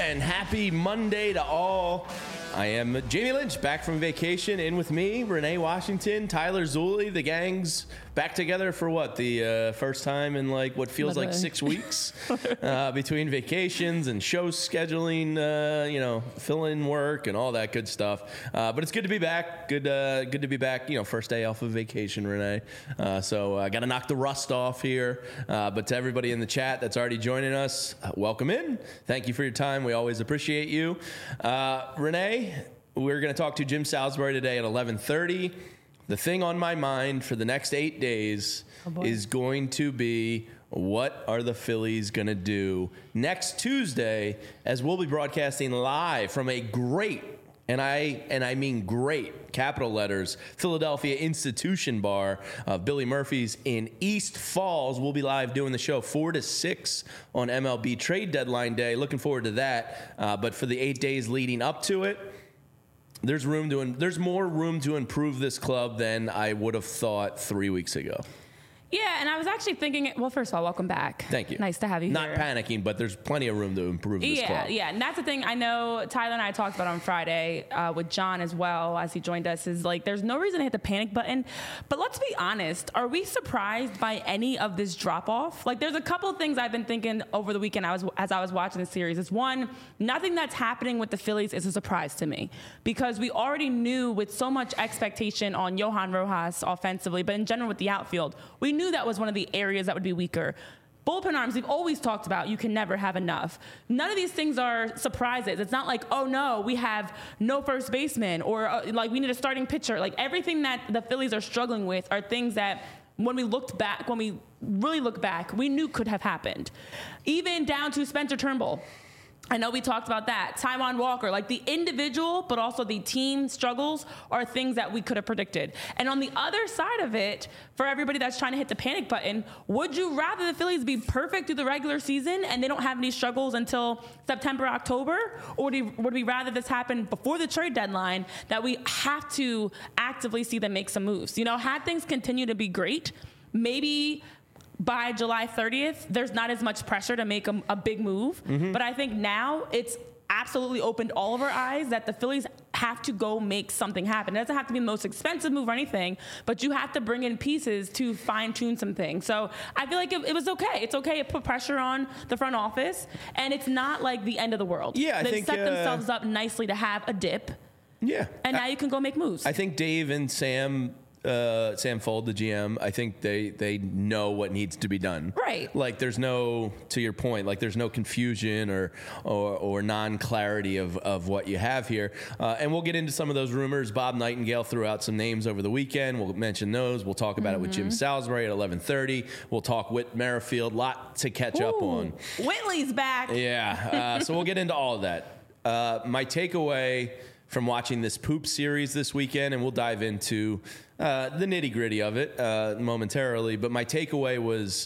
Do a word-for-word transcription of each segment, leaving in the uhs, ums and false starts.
and happy Monday to all. I am Jamie Lynch, back from vacation. In with me, Renee Washington, Tyler Zulli. The gang's back together for what? The uh, first time in like what feels like six weeks uh, between vacations and show scheduling, uh, you know, fill-in work and all that good stuff. Uh, but it's good to be back. Good, uh, good to be back. You know, first day off of vacation, Renee. Uh, so I got to knock the rust off here. Uh, but to everybody in the chat that's already joining us, uh, welcome in. Thank you for your time. We always appreciate you, uh, Renee. We're going to talk to Jim Salisbury today at eleven thirty. The thing on my mind for the next eight days oh is going to be, what are the Phillies going to do next Tuesday, as we'll be broadcasting live from a great, and I and I mean great, capital letters, Philadelphia Institution Bar of Billy Murphy's in East Falls. We'll be live doing the show four to six on M L B trade deadline day. Looking forward to that. Uh, but for the eight days leading up to it, There's room to there's more room to improve this club than I would have thought three weeks ago. Yeah, and I was actually thinking, well, first of all, welcome back. Thank you. Nice to have you Not here. Not panicking, but there's plenty of room to improve this yeah, club. Yeah, yeah, and that's the thing I know Tyler and I talked about on Friday uh, with John as well as he joined us, is like there's no reason to hit the panic button. But let's be honest, are we surprised by any of this drop-off? Like there's a couple of things I've been thinking over the weekend I was, as I was watching the series. It's one, nothing that's happening with the Phillies is a surprise to me, because we already knew with so much expectation on Johan Rojas offensively, but in general with the outfield, we knew that was one of the areas that would be weaker. Bullpen arms, we've always talked about, you can never have enough. None of these things are surprises. It's not like, oh no, we have no first baseman, or uh, like we need a starting pitcher. Like everything that the Phillies are struggling with are things that when we looked back, when we really look back, we knew could have happened. Even down to Spencer Turnbull. I know we talked about that. Taijuan Walker, like the individual, but also the team struggles are things that we could have predicted. And on the other side of it, for everybody that's trying to hit the panic button, would you rather the Phillies be perfect through the regular season and they don't have any struggles until September, October? Or would we, would we rather this happen before the trade deadline, that we have to actively see them make some moves? You know, had things continue to be great, maybe by July thirtieth, there's not as much pressure to make a, a big move. Mm-hmm. But I think now it's absolutely opened all of our eyes that the Phillies have to go make something happen. It doesn't have to be the most expensive move or anything, but you have to bring in pieces to fine-tune some things. So I feel like it, it was okay. It's okay to put pressure on the front office, and it's not like the end of the world. Yeah, I They've think, set uh, themselves up nicely to have a dip. Yeah. And now I, you can go make moves. I think Dave and Sam... Uh, Sam Fold, the G M, I think they, they know what needs to be done. Right. Like there's no, to your point, like there's no confusion or or, or non-clarity of, of what you have here. Uh, and we'll get into some of those rumors. Bob Nightingale threw out some names over the weekend. We'll mention those. We'll talk about mm-hmm. it with Jim Salisbury at eleven thirty. We'll talk Whit Merrifield. Lot to catch Ooh, up on. Whitley's back. Yeah. Uh, so we'll get into all of that. Uh, my takeaway from watching this poop series this weekend, and we'll dive into uh, the nitty-gritty of it uh, momentarily, but my takeaway was,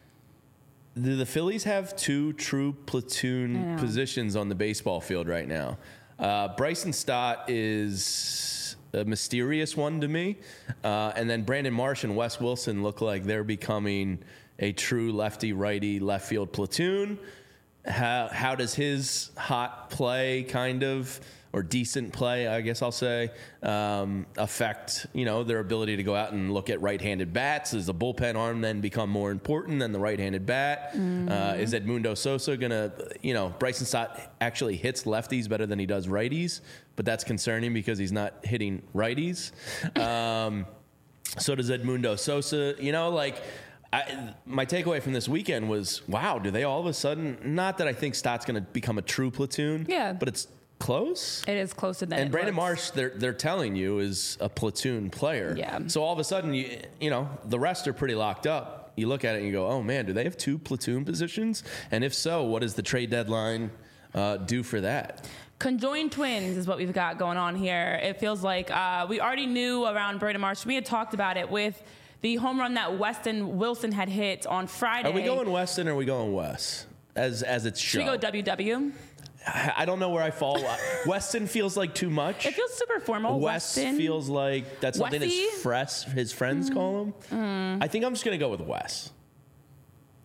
do the Phillies have two true platoon positions on the baseball field right now? Uh, Bryson Stott is a mysterious one to me, uh, and then Brandon Marsh and Wes Wilson look like they're becoming a true lefty-righty left field platoon. How, how does his hot play kind of... or decent play, I guess I'll say, um, affect, you know, their ability to go out and look at right-handed bats? Does the bullpen arm then become more important than the right-handed bat? Mm-hmm. Uh, is Edmundo Sosa going to, you know, Bryson Stott actually hits lefties better than he does righties, but that's concerning because he's not hitting righties. Um, so does Edmundo Sosa, you know, like... I, my takeaway from this weekend was, wow, do they all of a sudden, not that I think Stott's going to become a true platoon, yeah, but it's close. It is closer than and it Brandon looks. Marsh, they're they're telling you, is a platoon player. Yeah. So all of a sudden, you you know, the rest are pretty locked up. You look at it and you go, oh man, do they have two platoon positions? And if so, what does the trade deadline uh, do for that? Conjoined twins is what we've got going on here. It feels like uh, we already knew around Brandon Marsh. We had talked about it with the home run that Weston Wilson had hit on Friday. Are we going Weston or are we going Wes? As as it's shown. Should we go W W? I don't know where I fall. Weston feels like too much. It feels super formal. Wes Weston feels like that's something Westy? his, fresh, his friends mm. call him. Mm. I think I'm just going to go with Wes.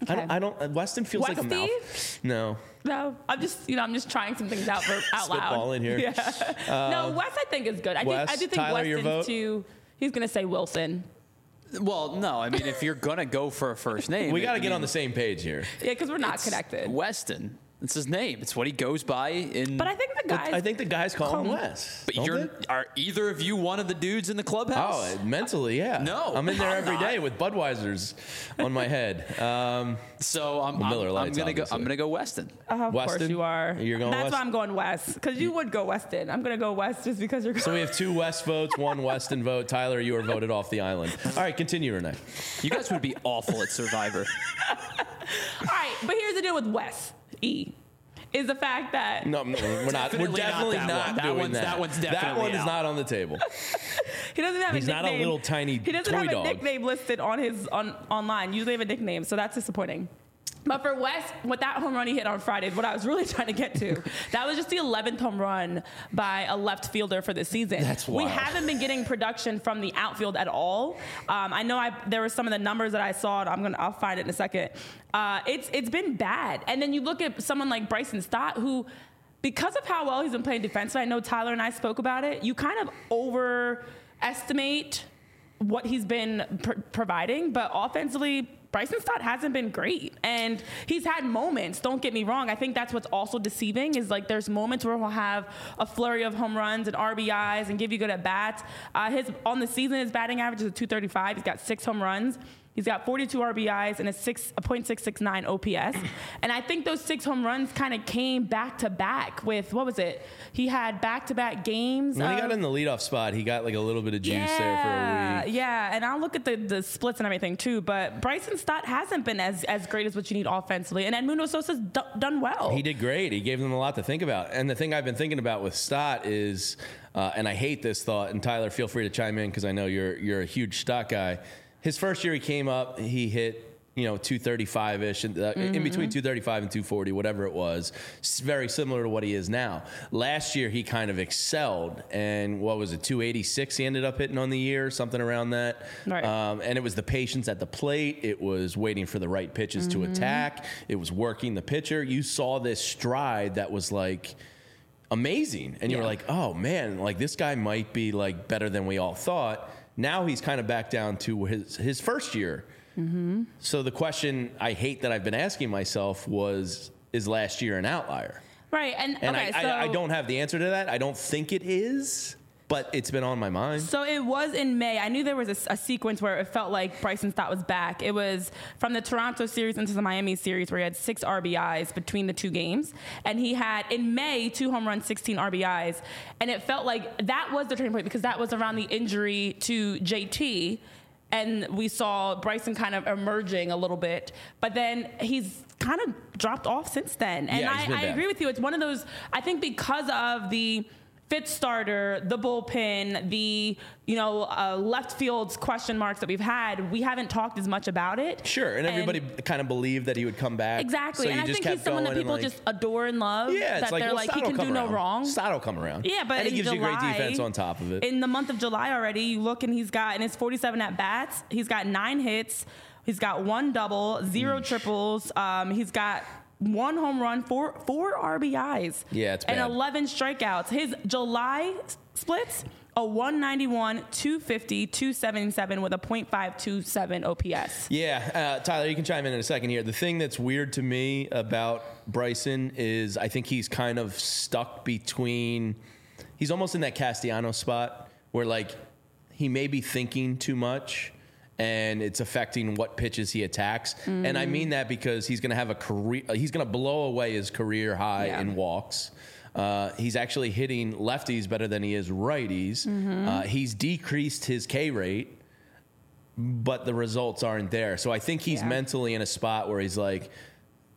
I don't. I don't Weston feels like a Westy? mouth. No. No, I'm just you know I'm just trying some things out for out loud. Spitball in here. Yeah. Uh, no, Wes I think is good. I Wes, think I do think Tyler, your Weston's vote? too. He's gonna say Wilson. Well, no, I mean, if you're going to go for a first name. We got to I get mean, on the same page here. Yeah, because we're not it's connected. Weston. It's his name. It's what he goes by in. But I think the guys. I think the guys call him Call- Wes. But don't you're, they? are either of you one of the dudes in the clubhouse? Oh, mentally, yeah. No, I'm in there I'm every not. day with Budweisers on my head. Um, So I'm, Well, Miller I'm, I'm Lights, gonna go. obviously. I'm gonna go Weston. Uh, of course Weston? you are. You're going That's West? why I'm going West. Because you would go Weston. I'm gonna go West just because you're. so we have two West votes, one Weston vote. Tyler, you are voted off the island. All right, continue, Renee. You guys would be awful at Survivor. All right, but here's the deal with Wes E. Is the fact that No, no, we're not. We're Definitely not definitely that not one. That doing one's- that. that one's That definitely one is out. not on the table. he doesn't have He's a not nickname. a little tiny He doesn't toy have a dog. nickname listed on his on online. Usually have a nickname, so that's disappointing. But for Wes, with that home run he hit on Friday, is what I was really trying to get to. That was just the eleventh home run by a left fielder for the season. That's We wild. haven't been getting production from the outfield at all. Um, I know I, there were some of the numbers that I saw. I'm gonna I'll find it in a second. Uh, it's it's been bad. And then you look at someone like Bryson Stott, who, because of how well he's been playing defensively, I know Tyler and I spoke about it. You kind of overestimate what he's been pr- providing, but offensively, Bryson Stott hasn't been great. And he's had moments, don't get me wrong. I think that's what's also deceiving is like there's moments where he'll have a flurry of home runs and R B Is and give you good at bats. Uh, his on the season, his batting average is a two thirty-five. He's got six home runs. He's got forty-two R B Is and a six a point six six nine O P S. And I think those six home runs kind of came back to back with, what was it? He had back to back games. When he of- got in the leadoff spot, he got like a little bit of juice there for a week. yeah, and I'll look at the, the splits and everything too. But Bryson Stott hasn't been as, as great as what you need offensively, and Edmundo Sosa's d- done well. He did great. He gave them a lot to think about. And the thing I've been thinking about with Stott is, uh, and I hate this thought, and Tyler, feel free to chime in because I know you're you're a huge Stott guy. His first year he came up, he hit, you know, two thirty-five-ish, in, uh, Mm-hmm. in between two thirty-five and two forty, whatever it was. It's very similar to what he is now. Last year he kind of excelled, and what was it, two eighty-six he ended up hitting on the year, something around that. Right. Um, and it was the patience at the plate. It was waiting for the right pitches Mm-hmm. to attack. It was working the pitcher. You saw this stride that was like amazing. And you were Yeah. like, oh man, like this guy might be like better than we all thought. Now he's kind of back down to his, his first year. Mm-hmm. So the question I hate that I've been asking myself was, is last year an outlier? Right, and, And okay, I, so I, I don't have the answer to that. I don't think it is, but it's been on my mind. So it was in May. I knew there was a, a sequence where it felt like Bryson Stott was back. It was from the Toronto series into the Miami series where he had six R B Is between the two games. And he had, in May, two home runs, sixteen R B Is. And it felt like that was the turning point because that was around the injury to J T. And we saw Bryson kind of emerging a little bit. But then he's kind of dropped off since then. And Yeah, he's been I, I bad. agree with you. It's one of those, I think because of the fifth starter, the bullpen, the you know uh, left field's question marks that we've had, we haven't talked as much about it. Sure, and everybody kind of believed that he would come back. Exactly, So and you I just think kept he's someone that going and, people like, just adore and love. Yeah, it's that like, they're well, like Stott he will can come do around. no wrong. Stott will come around. Yeah, but and he in gives July, you great defense on top of it. In the month of July already, you look and he's got in his forty-seven at bats, he's got nine hits, he's got one double, zero triples, um, he's got one home run, four four R B Is, Yeah, it's and bad. eleven strikeouts. His July splits a one ninety-one, two fifty, two seventy-seven with a point five two seven O P S. Yeah, uh, Tyler, you can chime in in a second here. The thing that's weird to me about Bryson is I think he's kind of stuck between, he's almost in that Castellanos spot where like he may be thinking too much and it's affecting what pitches he attacks. Mm. And I mean that because he's going to have a career, he's going to blow away his career high Yeah. in walks. Uh, he's actually hitting lefties better than he is righties. Mm-hmm. Uh, he's decreased his K rate, but the results aren't there. So I think he's Yeah. mentally in a spot where he's like,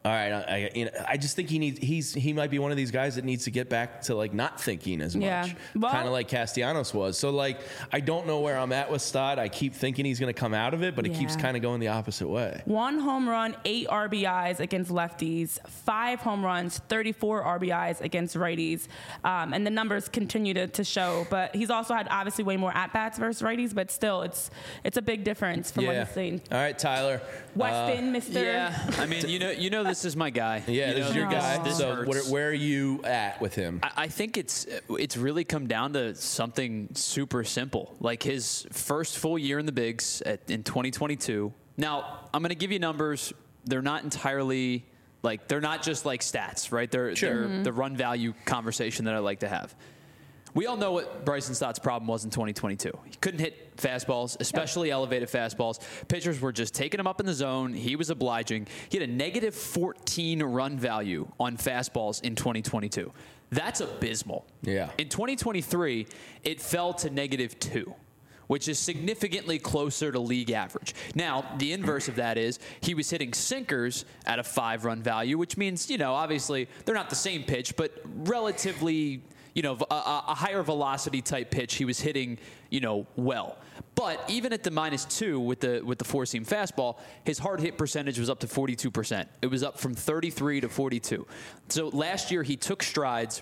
All right, I, I, you know, I just think he needs. He's he might be one of these guys that needs to get back to like not thinking as much, Yeah. Well- kind of like Castellanos was. So like, I don't know where I'm at with Stott. I keep thinking he's going to come out of it, but it keeps Yeah. kind of going the opposite way. One home run, eight R B Is against lefties, five home runs, thirty-four R B Is against righties. Um, and the numbers continue to, to show. But he's also had obviously way more at-bats versus righties, but still, it's it's a big difference from what Yeah. he's seen. All right, Tyler. Weston, Mister Yeah, I mean, you know, you know, this is my guy. Yeah, you this know, is your this- guy. This so hurts. where, where are you at with him? I, I think it's it's really come down to something super simple. Like his first full year in the bigs at, in twenty twenty-two. Now, I'm going to give you numbers. They're not entirely like they're not just like stats, right? They're Sure. they're the run value conversation that I like to have. We all know what Bryson Stott's problem was in twenty twenty-two. He couldn't hit fastballs, especially elevated fastballs. Pitchers were just taking him up in the zone. He was obliging. He had a negative fourteen run value on fastballs in twenty twenty-two. That's abysmal. Yeah. In twenty twenty-three, it fell to negative two, which is significantly closer to league average. Now, the inverse of that is he was hitting sinkers at a five-run value, which means, you know, obviously they're not the same pitch, but relatively, you know, a, a higher velocity type pitch he was hitting, you know, well. But even at the minus two with the with the four seam fastball, his hard hit percentage was up to forty-two percent. It was up from thirty-three to forty-two. So last year he took strides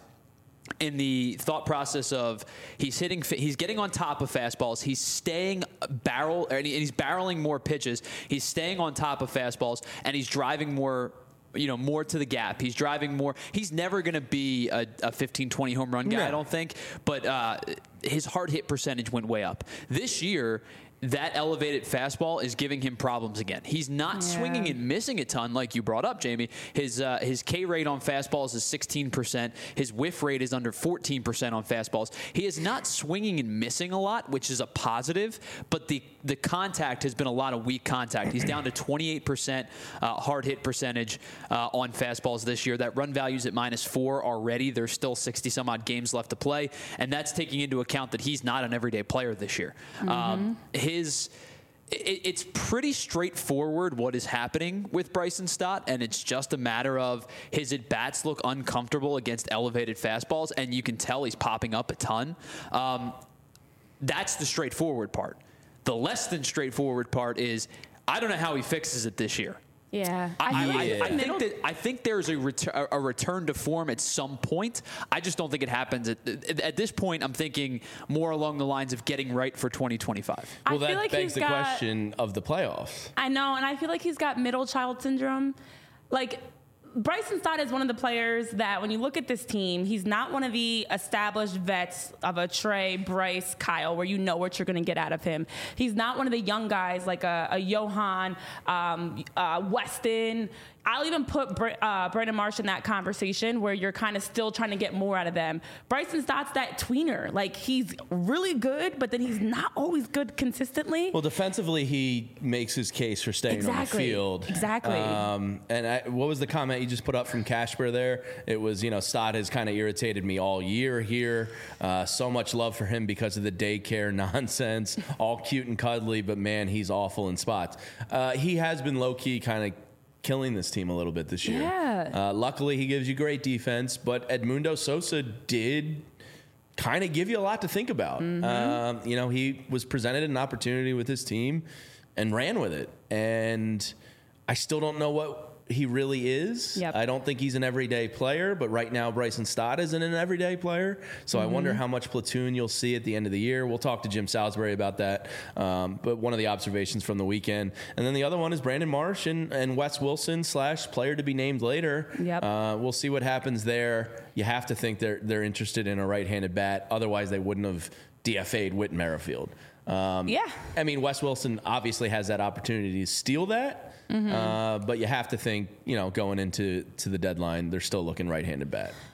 in the thought process of he's hitting, he's getting on top of fastballs, he's staying barrel, and he's barreling more pitches, he's staying on top of fastballs, and he's driving more, you know, more to the gap. He's driving more. He's never going to be a, a fifteen, twenty home run guy, No. I don't think, but uh, his hard hit percentage went way up. This year, that elevated fastball is giving him problems again. He's not Yeah. swinging and missing a ton like you brought up, Jamie. His uh, his K rate on fastballs is sixteen percent. His whiff rate is under fourteen percent on fastballs. He is not swinging and missing a lot, which is a positive, but the, the contact has been a lot of weak contact. He's down to twenty-eight percent uh, hard hit percentage uh, on fastballs this year. That run value's at minus four already. There's still sixty some odd games left to play, and that's taking into account that he's not an everyday player this year. Mm-hmm. Um, his it, it's pretty straightforward what is happening with Bryson Stott, and it's just a matter of his at-bats look uncomfortable against elevated fastballs, and you can tell he's popping up a ton. Um, that's the straightforward part. The less than straightforward part is I don't know how he fixes it this year. Yeah. I, feel I, like I the middle- think that I think there's a, retur- a return to form at some point. I just don't think it happens at, at this point. I'm thinking more along the lines of getting right for twenty twenty-five. I Well, feel that like begs he's the got- question of the playoffs. I know, and I feel like he's got middle child syndrome. Like, Bryson Stott is one of the players that when you look at this team, he's not one of the established vets of a Trey, Bryce, Kyle, where you know what you're going to get out of him. He's not one of the young guys like a, a Johan, um, uh, Weston. I'll even put Br- uh, Brandon Marsh in that conversation where you're kind of still trying to get more out of them. Bryson Stott's that tweener. Like, he's really good, but then he's not always good consistently. Well, defensively, he makes his case for staying on the Exactly. field. Exactly. Um, and I, what was the comment you just put up from Casper there? It was, you know, Stott has kind of irritated me all year here. Uh, so much love for him because of the daycare nonsense. All cute and cuddly, but man, he's awful in spots. Uh, he has been low-key kind of killing this team a little bit this year. Yeah. Uh, luckily, he gives you great defense, but Edmundo Sosa did kind of give you a lot to think about. Mm-hmm. Um, you know, he was presented an opportunity with his team and ran with it. And I still don't know what he really is. Yep. I don't think he's an everyday player, but right now Bryson Stott isn't an everyday player. So Mm-hmm. I wonder how much platoon you'll see at the end of the year. We'll talk to Jim Salisbury about that. Um, but one of the observations from the weekend. And then the other one is Brandon Marsh and, and Wes Wilson slash player to be named later. Yep. Uh, we'll see what happens there. You have to think they're, they're interested in a right-handed bat. Otherwise, they wouldn't have D F A'd Whit Merrifield. Um, Yeah. I mean, Wes Wilson obviously has that opportunity to steal that. Uh, but you have to think, you know, going into to the deadline, they're still looking right-handed bat.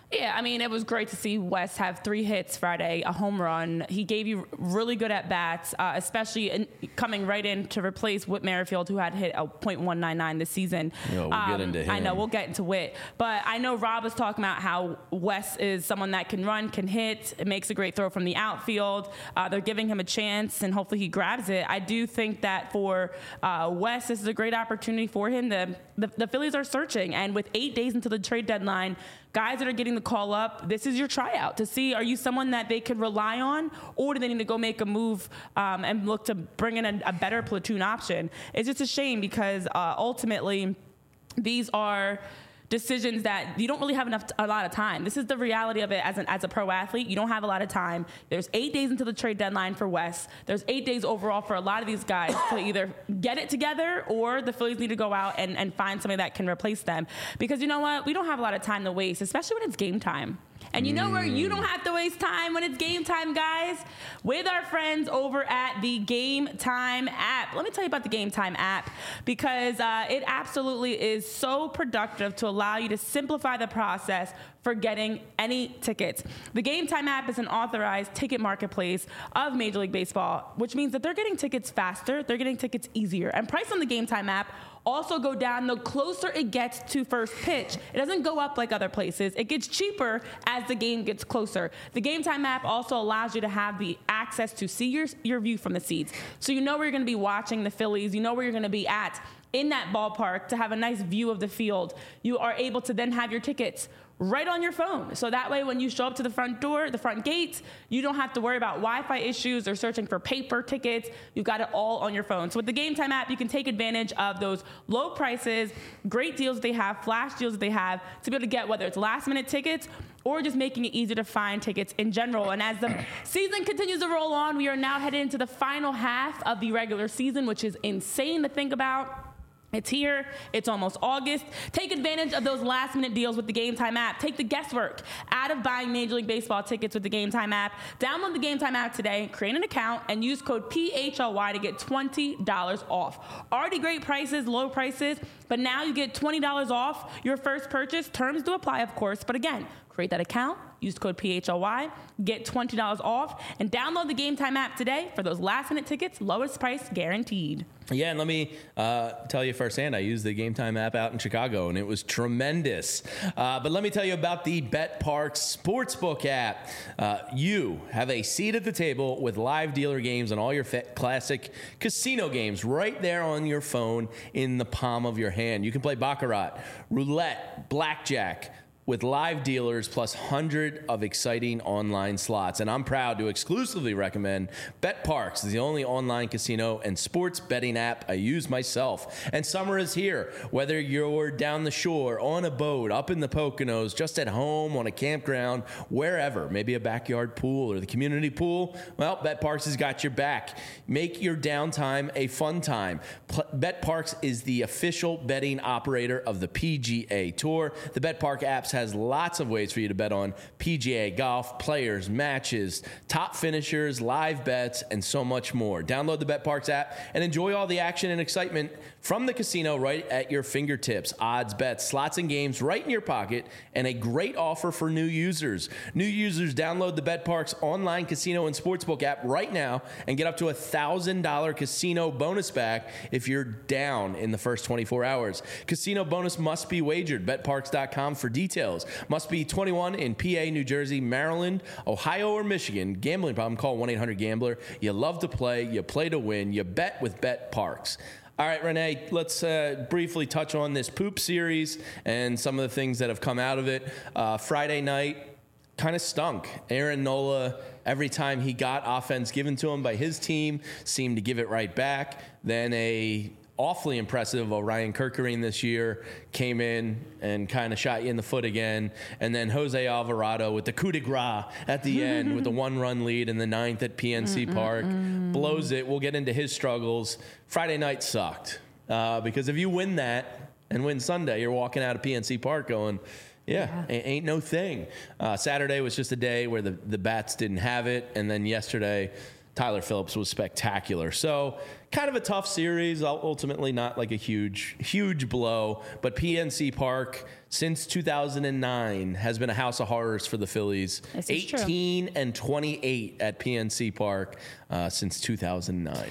Yeah, I mean, it was great to see Wes have three hits Friday, a home run. He gave you really good at-bats, uh, especially in, coming right in to replace Whit Merrifield, who had hit a point one nine nine this season. No, we'll um, get into him. I know, we'll get into Whit. But I know Rob was talking about how Wes is someone that can run, can hit, it makes a great throw from the outfield. Uh, they're giving him a chance, and hopefully he grabs it. I do think that for uh, Wes, this is a great opportunity for him. The, the, the Phillies are searching, and with eight days until the trade deadline, guys that are getting the call up, this is your tryout to see, are you someone that they can rely on, or do they need to go make a move um, and look to bring in a, a better platoon option? It's just a shame because uh, ultimately these are decisions that you don't really have enough a lot of time. This is the reality of it as an as a pro athlete. You don't have a lot of time. There's eight days until the trade deadline for Wes. There's eight days overall for a lot of these guys to either get it together or the Phillies need to go out and, and find somebody that can replace them. Because you know what? We don't have a lot of time to waste, especially when it's game time. And you know where you don't have to waste time when it's game time, guys? With our friends over at the Game Time app. Let me tell you about the Game Time app because uh, it absolutely is so productive to allow you to simplify the process for getting any tickets. The Game Time app is an authorized ticket marketplace of Major League Baseball, which means that they're getting tickets faster, they're getting tickets easier. And price on the Game Time app also go down the closer it gets to first pitch. It doesn't go up like other places. It gets cheaper as the game gets closer. The Game Time app also allows you to have the access to see your, your view from the seats. So you know where you're going to be watching the Phillies. You know where you're going to be at in that ballpark to have a nice view of the field. You are able to then have your tickets right on your phone. So that way when you show up to the front door, the front gates, you don't have to worry about Wi-Fi issues or searching for paper tickets. You've got it all on your phone. So with the Game Time app, you can take advantage of those low prices, great deals that they have, flash deals that they have to be able to get whether it's last minute tickets or just making it easier to find tickets in general. And as the season continues to roll on, we are now headed into the final half of the regular season, which is insane to think about. It's here. It's almost August. Take advantage of those last-minute deals with the Game Time app. Take the guesswork out of buying Major League Baseball tickets with the Game Time app. Download the Game Time app today, create an account, and use code P H L Y to get twenty dollars off. Already great prices, low prices, but now you get twenty dollars off your first purchase. Terms do apply, of course, but again, create that account, use code P H L Y, get twenty dollars off, and download the Game Time app today for those last-minute tickets, lowest price guaranteed. Yeah, and let me uh, tell you firsthand, I used the Game Time app out in Chicago, and it was tremendous. Uh, but let me tell you about the BetParx Sportsbook app. Uh, you have a seat at the table with live dealer games and all your fa- classic casino games right there on your phone in the palm of your hand. You can play baccarat, roulette, blackjack, with live dealers plus hundred of exciting online slots. And I'm proud to exclusively recommend BetParx, the only online casino and sports betting app I use myself. And summer is here. Whether you're down the shore, on a boat, up in the Poconos, just at home, on a campground, wherever, maybe a backyard pool or the community pool, well, BetParx has got your back. Make your downtime a fun time. BetParx is the official betting operator of the P G A Tour. The BetParx apps has lots of ways for you to bet on P G A golf, players, matches, top finishers, live bets, and so much more. Download the BetParx app and enjoy all the action and excitement from the casino right at your fingertips. Odds, bets, slots, and games right in your pocket, and a great offer for new users. New users download the BetParx online casino and sportsbook app right now and get up to a one thousand dollars casino bonus back if you're down in the first twenty-four hours. Casino bonus must be wagered. Bet Parx dot com for details. Must be twenty-one in P A, New Jersey, Maryland, Ohio, or Michigan. Gambling problem? Call one eight hundred gambler. You love to play. You play to win. You bet with BetParx. All right, Renee, let's uh, briefly touch on this poop series and some of the things that have come out of it. Uh, Friday night kind of stunk. Aaron Nola, every time he got offense given to him by his team, seemed to give it right back. Then a awfully impressive Orion Kerkering this year came in and kind of shot you in the foot again. And then Jose Alvarado with the coup de grace at the end with the one-run lead in the ninth at P N C mm, Park. Mm, mm. Blows it. We'll get into his struggles. Friday night sucked uh, because if you win that and win Sunday, you're walking out of P N C Park going, yeah, yeah. ain't no thing. Uh, Saturday was just a day where the, the bats didn't have it. And then yesterday, Tyler Phillips was spectacular. So kind of a tough series, ultimately not like a huge, huge blow. But P N C Park, since two thousand nine, has been a house of horrors for the Phillies. eighteen and twenty-eight at P N C Park uh, since two thousand nine.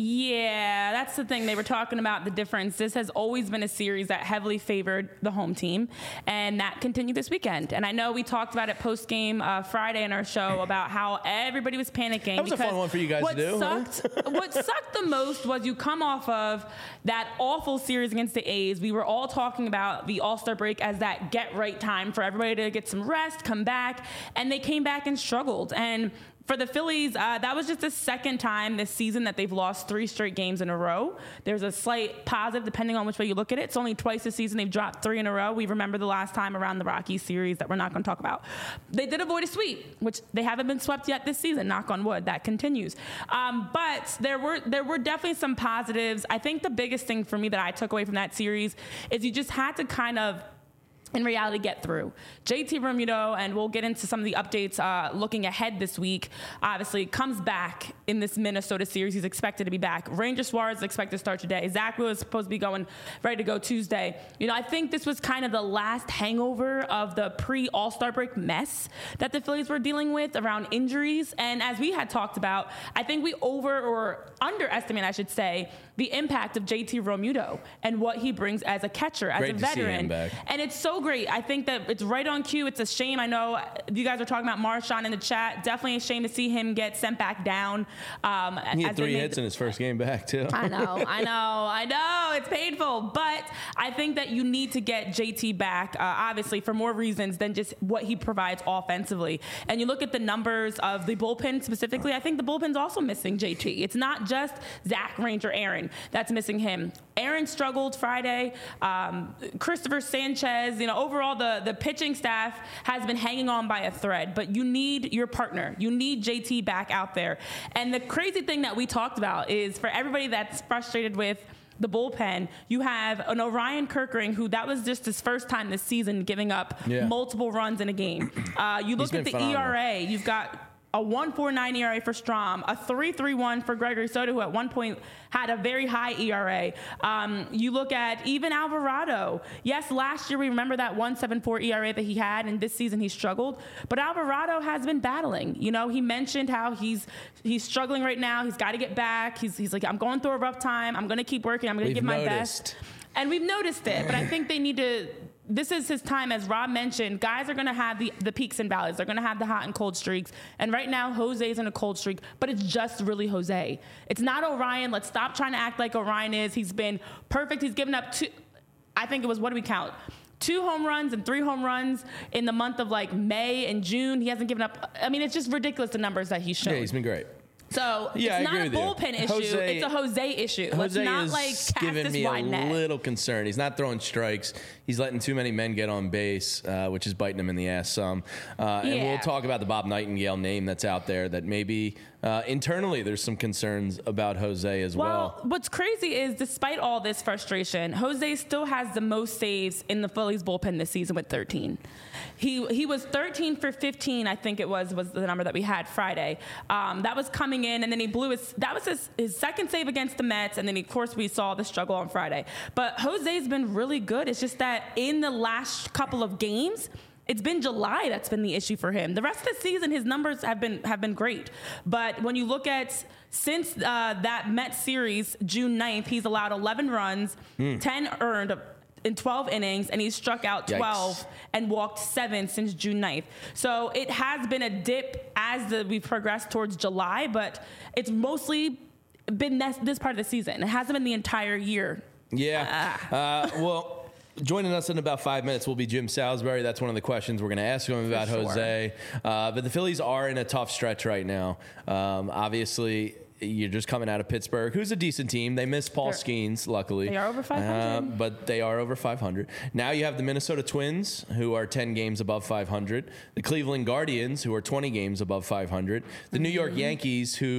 Yeah, that's the thing. They were talking about the difference. This has always been a series that heavily favored the home team, and that continued this weekend. And I know we talked about it post-game uh, Friday in our show about how everybody was panicking. That was a fun one for you guys what to do. Sucked, huh? What sucked the most was you come off of that awful series against the A's. We were all talking about the All-Star break as that get-right time for everybody to get some rest, come back, and they came back and struggled. And for the Phillies, uh, that was just the second time this season that they've lost three straight games in a row. There's a slight positive depending on which way you look at it. It's only twice this season they've dropped three in a row. We remember the last time around the Rockies series that we're not going to talk about. They did avoid a sweep, which they haven't been swept yet this season. Knock on wood, that continues. Um, but there were there were definitely some positives. I think the biggest thing for me that I took away from that series is you just had to kind of, in reality, get through. J T Realmuto, and we'll get into some of the updates uh, looking ahead this week, obviously comes back in this Minnesota series. He's expected to be back. Ranger Suarez is expected to start today. Zach Wheeler is supposed to be going, ready to go Tuesday. You know, I think this was kind of the last hangover of the pre-All-Star break mess that the Phillies were dealing with around injuries. And as we had talked about, I think we over or underestimate, I should say, the impact of J T Realmuto and what he brings as a catcher, as Great a to see veteran. him back. And it's so great. I think that it's right on cue. It's a shame. I know you guys are talking about Marshawn in the chat. Definitely a shame to see him get sent back down. Um, he had as three made, hits in his first game back, too. I know, I know, I know. It's painful. But I think that you need to get J T back, uh, obviously, for more reasons than just what he provides offensively. And you look at the numbers of the bullpen specifically, I think the bullpen's also missing J T. It's not just Zach, Ranger, Aaron that's missing him. Aaron struggled Friday. Um, Christopher Sanchez, you know, overall the, the pitching staff has been hanging on by a thread, but you need your partner. You need J T back out there. And the crazy thing that we talked about is for everybody that's frustrated with the bullpen, you have an Orion Kerkering, who that was just his first time this season giving up yeah. multiple runs in a game. Uh, you look at the phenomenal. E R A, you've got a one point four nine E R A for Strom, a three point three one for Gregory Soto, who at one point had a very high E R A. Um, you look at even Alvarado. Yes, last year we remember that one point seven four E R A that he had, and this season he struggled. But Alvarado has been battling. You know, he mentioned how he's he's struggling right now. He's got to get back. He's he's like, I'm going through a rough time. I'm going to keep working. I'm going to give my noticed. best. And we've noticed it, but I think they need to. This is his time, as Rob mentioned. Guys are going to have the, the peaks and valleys. They're going to have the hot and cold streaks. And right now, Jose's in a cold streak, but it's just really Jose. It's not Orion. Let's stop trying to act like Orion is. He's been perfect. He's given up two, I think it was, what do we count? Two home runs and three home runs in the month of like May and June. He hasn't given up. I mean, it's just ridiculous, the numbers that he's shown. Yeah, he's been great. So yeah, it's I not a agree bullpen issue. Jose, it's a Jose issue. Let's Jose not is like cast giving this me wide a net. little concern. He's not throwing strikes. He's letting too many men get on base, uh, which is biting him in the ass some. Uh, yeah. And we'll talk about the Bob Nightingale name that's out there that maybe uh, internally there's some concerns about Jose as well. Well, what's crazy is despite all this frustration, Jose still has the most saves in the Phillies bullpen this season with thirteen. He he was thirteen for fifteen, I think it was, was the number that we had Friday. Um, that was coming in, and then he blew his, that was his, his second save against the Mets, and then, of course, we saw the struggle on Friday. But Jose's been really good. It's just that in the last couple of games, it's been July that's been the issue for him. The rest of the season, his numbers have been have been great. But when you look at since uh, that Mets series, June ninth, he's allowed eleven runs, mm. ten earned in twelve innings, and he's struck out twelve Yikes. And walked seven since June ninth. So it has been a dip as the, we've progressed towards July, but it's mostly been this, this part of the season. It hasn't been the entire year. Yeah. Uh, uh, well... Joining us in about five minutes will be Jim Salisbury. That's one of the questions we're going to ask him about sure. Jose. Uh, but the Phillies are in a tough stretch right now. Um, obviously, you're just coming out of Pittsburgh, who's a decent team. They missed Paul They're, Skeens, luckily. They are over five hundred. Uh, but they are over five hundred. Now you have the Minnesota Twins, who are ten games above five hundred. The Cleveland Guardians, who are twenty games above five hundred. The New York Yankees, who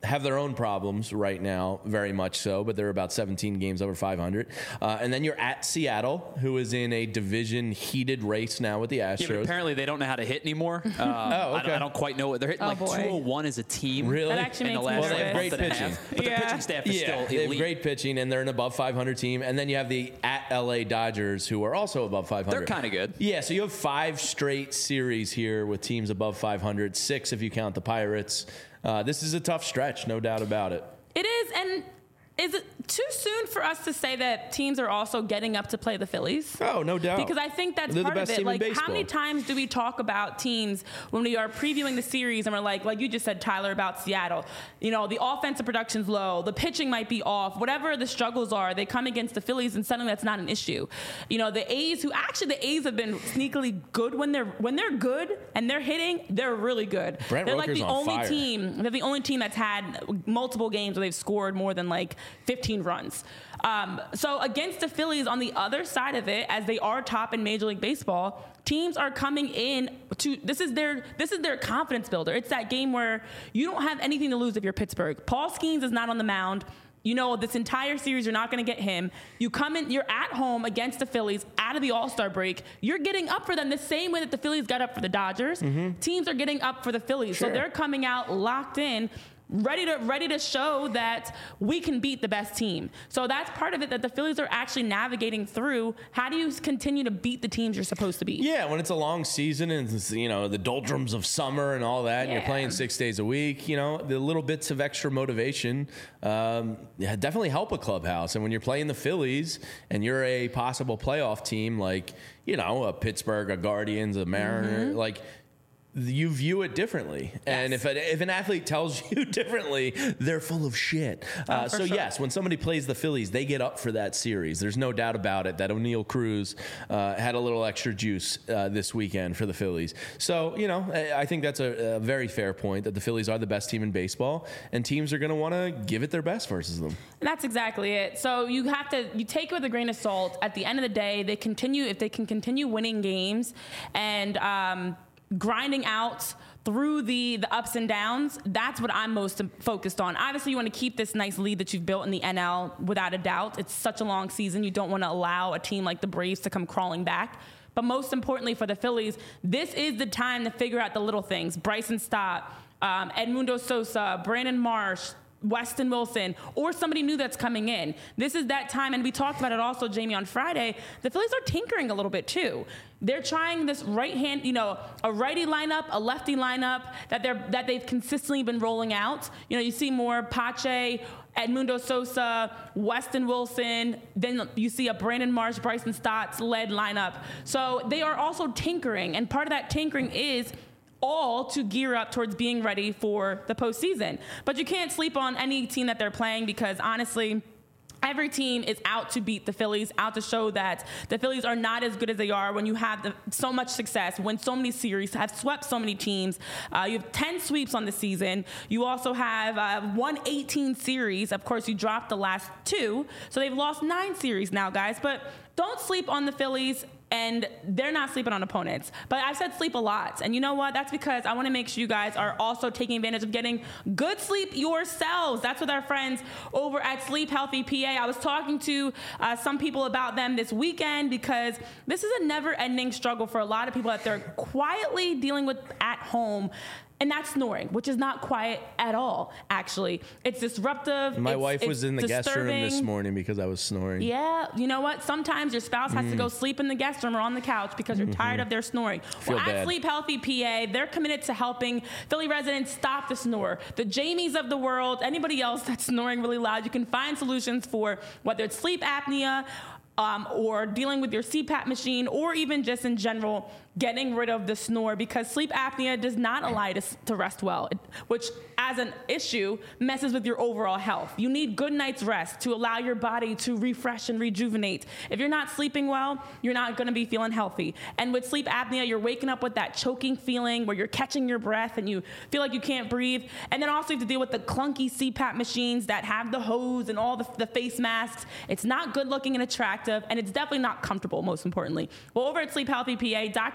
have their own problems right now, very much so, but they're about seventeen games over five hundred. Uh, and then you're at Seattle, who is in a division heated race now with the Astros. Yeah, but apparently they don't know how to hit anymore. Uh, oh, okay. I, don't, I don't quite know what they're hitting. Oh, like boy. two oh one as a team. Really? That actually in the makes last me Well, they have nervous. great month and a pitching. half. But Yeah. the pitching staff is Yeah, still they have elite. great pitching, and they're an above five hundred team. And then you have the at L A Dodgers, who are also above five hundred. They're kind of good. Yeah, so you have five straight series here with teams above five hundred, six if you count the Pirates. Uh, this is a tough stretch, no doubt about it. It is, and is it too soon for us to say that teams are also getting up to play the Phillies? Oh, no doubt. Because I think that's They're the part of best it. team in Like, how many baseball. times do we talk about teams when we are previewing the series and we're like, like you just said, Tyler, about Seattle, you know, the offensive production's low, the pitching might be off, whatever the struggles are, they come against the Phillies and suddenly that's not an issue. You know, the A's, who actually the A's have been sneakily good when they're when they're good and they're hitting, they're really good. Brent they're like Rooker's the on only fire. team. They're the only team that's had multiple games where they've scored more than like fifteen runs. Um, so against the Phillies on the other side of it, as they are top in Major League Baseball, teams are coming in to this is their this is their confidence builder. It's that game where you don't have anything to lose if you're Pittsburgh. Paul Skeens is not on the mound. You know, this entire series, you're not going to get him. You come in, you're at home against the Phillies out of the All-Star break. You're getting up for them the same way that the Phillies got up for the Dodgers. Mm-hmm. Teams are getting up for the Phillies. Sure. So they're coming out locked in, ready to ready to show that we can beat the best team. So that's part of it that the Phillies are actually navigating through. How do you continue to beat the teams you're supposed to beat? Yeah, when it's a long season and it's, you know, the doldrums of summer and all that, and you're Yeah. playing six days a week, you know, the little bits of extra motivation um, yeah, definitely help a clubhouse. And when you're playing the Phillies and you're a possible playoff team like, you know, a Pittsburgh, a Guardians, a Mariner, Mm-hmm. like, you view it differently. And if, a, if an athlete tells you differently, they're full of shit. Uh, Oh, for so, sure. yes, when somebody plays the Phillies, they get up for that series. There's no doubt about it that O'Neal Cruz uh, had a little extra juice uh, this weekend for the Phillies. So, you know, I I think that's a, a very fair point that the Phillies are the best team in baseball, and teams are going to want to give it their best versus them. And that's exactly it. So you have to you take it with a grain of salt. At the end of the day, they continue if they can continue winning games and um, grinding out through the the ups and downs. That's what I'm most focused on. Obviously, you want to keep this nice lead that you've built in the N L without a doubt. It's such a long season. You don't want to allow a team like the Braves to come crawling back. But most importantly for the Phillies, this is the time to figure out the little things. Bryson Stott, um, Edmundo Sosa, Brandon Marsh, Weston Wilson, or somebody new that's coming in. This is that time, and we talked about it also, Jamie, on Friday. The Phillies are tinkering a little bit too. They're trying this right hand, you know, a righty lineup, a lefty lineup that they're that they've consistently been rolling out. You know, you see more Pache, Edmundo Sosa, Weston Wilson. Then you see a Brandon Marsh, Bryson Stott's led lineup. So they are also tinkering, and part of that tinkering is all to gear up towards being ready for the postseason. But you can't sleep on any team that they're playing because honestly, every team is out to beat the Phillies, out to show that the Phillies are not as good as they are when you have the, so much success, win so many series, have swept so many teams. Uh, you have ten sweeps on the season. You also have uh, won eighteen series. Of course, you dropped the last two. So they've lost nine series now, guys. But don't sleep on the Phillies. And they're not sleeping on opponents. But I've said sleep a lot. And you know what? That's because I want to make sure you guys are also taking advantage of getting good sleep yourselves. That's with our friends over at Sleep Healthy P A. I was talking to uh, some people about them this weekend because this is a never-ending struggle for a lot of people that they're quietly dealing with at home. And that's snoring, which is not quiet at all, actually. It's disruptive. My it's, wife it's was in the guest room this disturbing. morning because I was snoring. Yeah, you know what? Sometimes your spouse has to go sleep in the guest room or on the couch because you're tired of their snoring. Feel Well, at bad. Sleep Healthy P A, they're committed to helping Philly residents stop the snore. The Jamies of the world, anybody else that's snoring really loud, you can find solutions for whether it's sleep apnea, Um, or dealing with your C PAP machine, or even just in general getting rid of the snore, because sleep apnea does not allow you to, to rest well, it, which as an issue messes with your overall health. You need good night's rest to allow your body to refresh and rejuvenate. If you're not sleeping well, you're not going to be feeling healthy. And with sleep apnea, you're waking up with that choking feeling where you're catching your breath and you feel like you can't breathe. And then also you have to deal with the clunky C PAP machines that have the hose and all the, the face masks. It's not good looking and attractive, and it's definitely not comfortable, most importantly. Well, over at Sleep Healthy P A, Doctor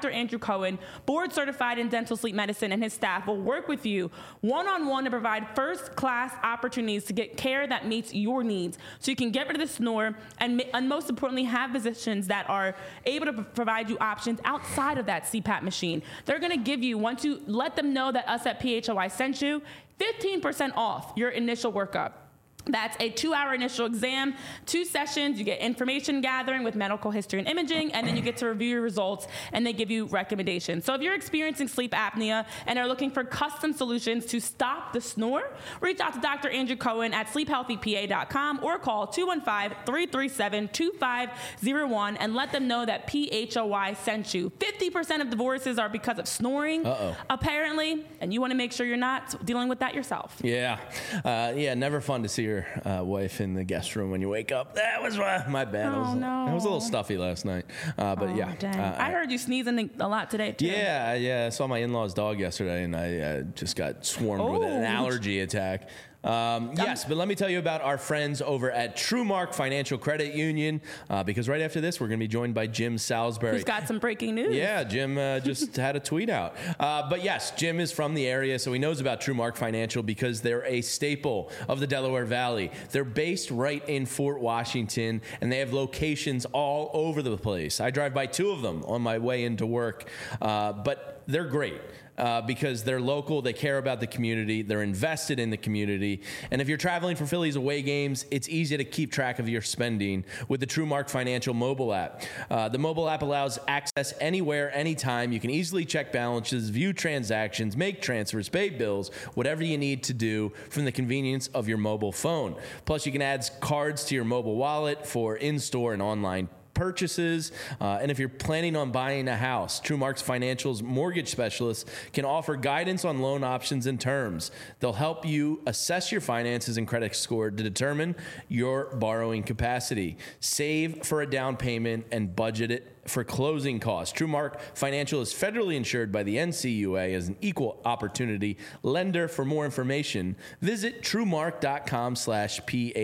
Doctor Andrew Cohen, board certified in dental sleep medicine, and his staff will work with you one-on-one to provide first-class opportunities to get care that meets your needs, so you can get rid of the snore and, and most importantly, have physicians that are able to p- provide you options outside of that C PAP machine. They're going to give you, once you let them know that us at P H O I sent you, fifteen percent off your initial workup. That's a two-hour initial exam, two sessions. You get information gathering with medical history and imaging, and then you get to review your results, and they give you recommendations. So if you're experiencing sleep apnea and are looking for custom solutions to stop the snore, reach out to Doctor Andrew Cohen at sleep healthy P A dot com or call two one five, three three seven, two five zero one and let them know that P H O I sent you. fifty percent of divorces are because of snoring, Uh-oh. apparently, and you want to make sure you're not dealing with that yourself. Yeah. Uh, yeah, never fun to see your uh, wife in the guest room when you wake up. That was uh, my bad. Oh, I was, no. I was a little stuffy last night. Uh, but Oh, yeah. dang. Uh, I heard you sneezing a lot today, too. Yeah, yeah. I saw my in-laws' dog yesterday, and I uh, just got swarmed with an Oh. allergy attack. Um, yes, but let me tell you about our friends over at TrueMark Financial Credit Union, uh, because right after this, we're going to be joined by Jim Salisbury. Who's got some breaking news. Yeah, Jim uh, just had a tweet out. Uh, but yes, Jim is from the area, so he knows about TrueMark Financial because they're a staple of the Delaware Valley. They're based right in Fort Washington, and they have locations all over the place. I drive by two of them on my way into work, uh, but they're great. Uh, because they're local, they care about the community, they're invested in the community, and if you're traveling for Phillies away games, it's easy to keep track of your spending with the TrueMark Financial mobile app. Uh, the mobile app allows access anywhere, anytime. You can easily check balances, view transactions, make transfers, pay bills, whatever you need to do from the convenience of your mobile phone. Plus, you can add cards to your mobile wallet for in-store and online purchases. Uh, and if you're planning on buying a house, TrueMark's Financial's mortgage specialists can offer guidance on loan options and terms. They'll help you assess your finances and credit score to determine your borrowing capacity, save for a down payment, and budget it for closing costs. TrueMark Financial is federally insured by the N C U A as an equal opportunity lender. For more information, visit truemark.com slash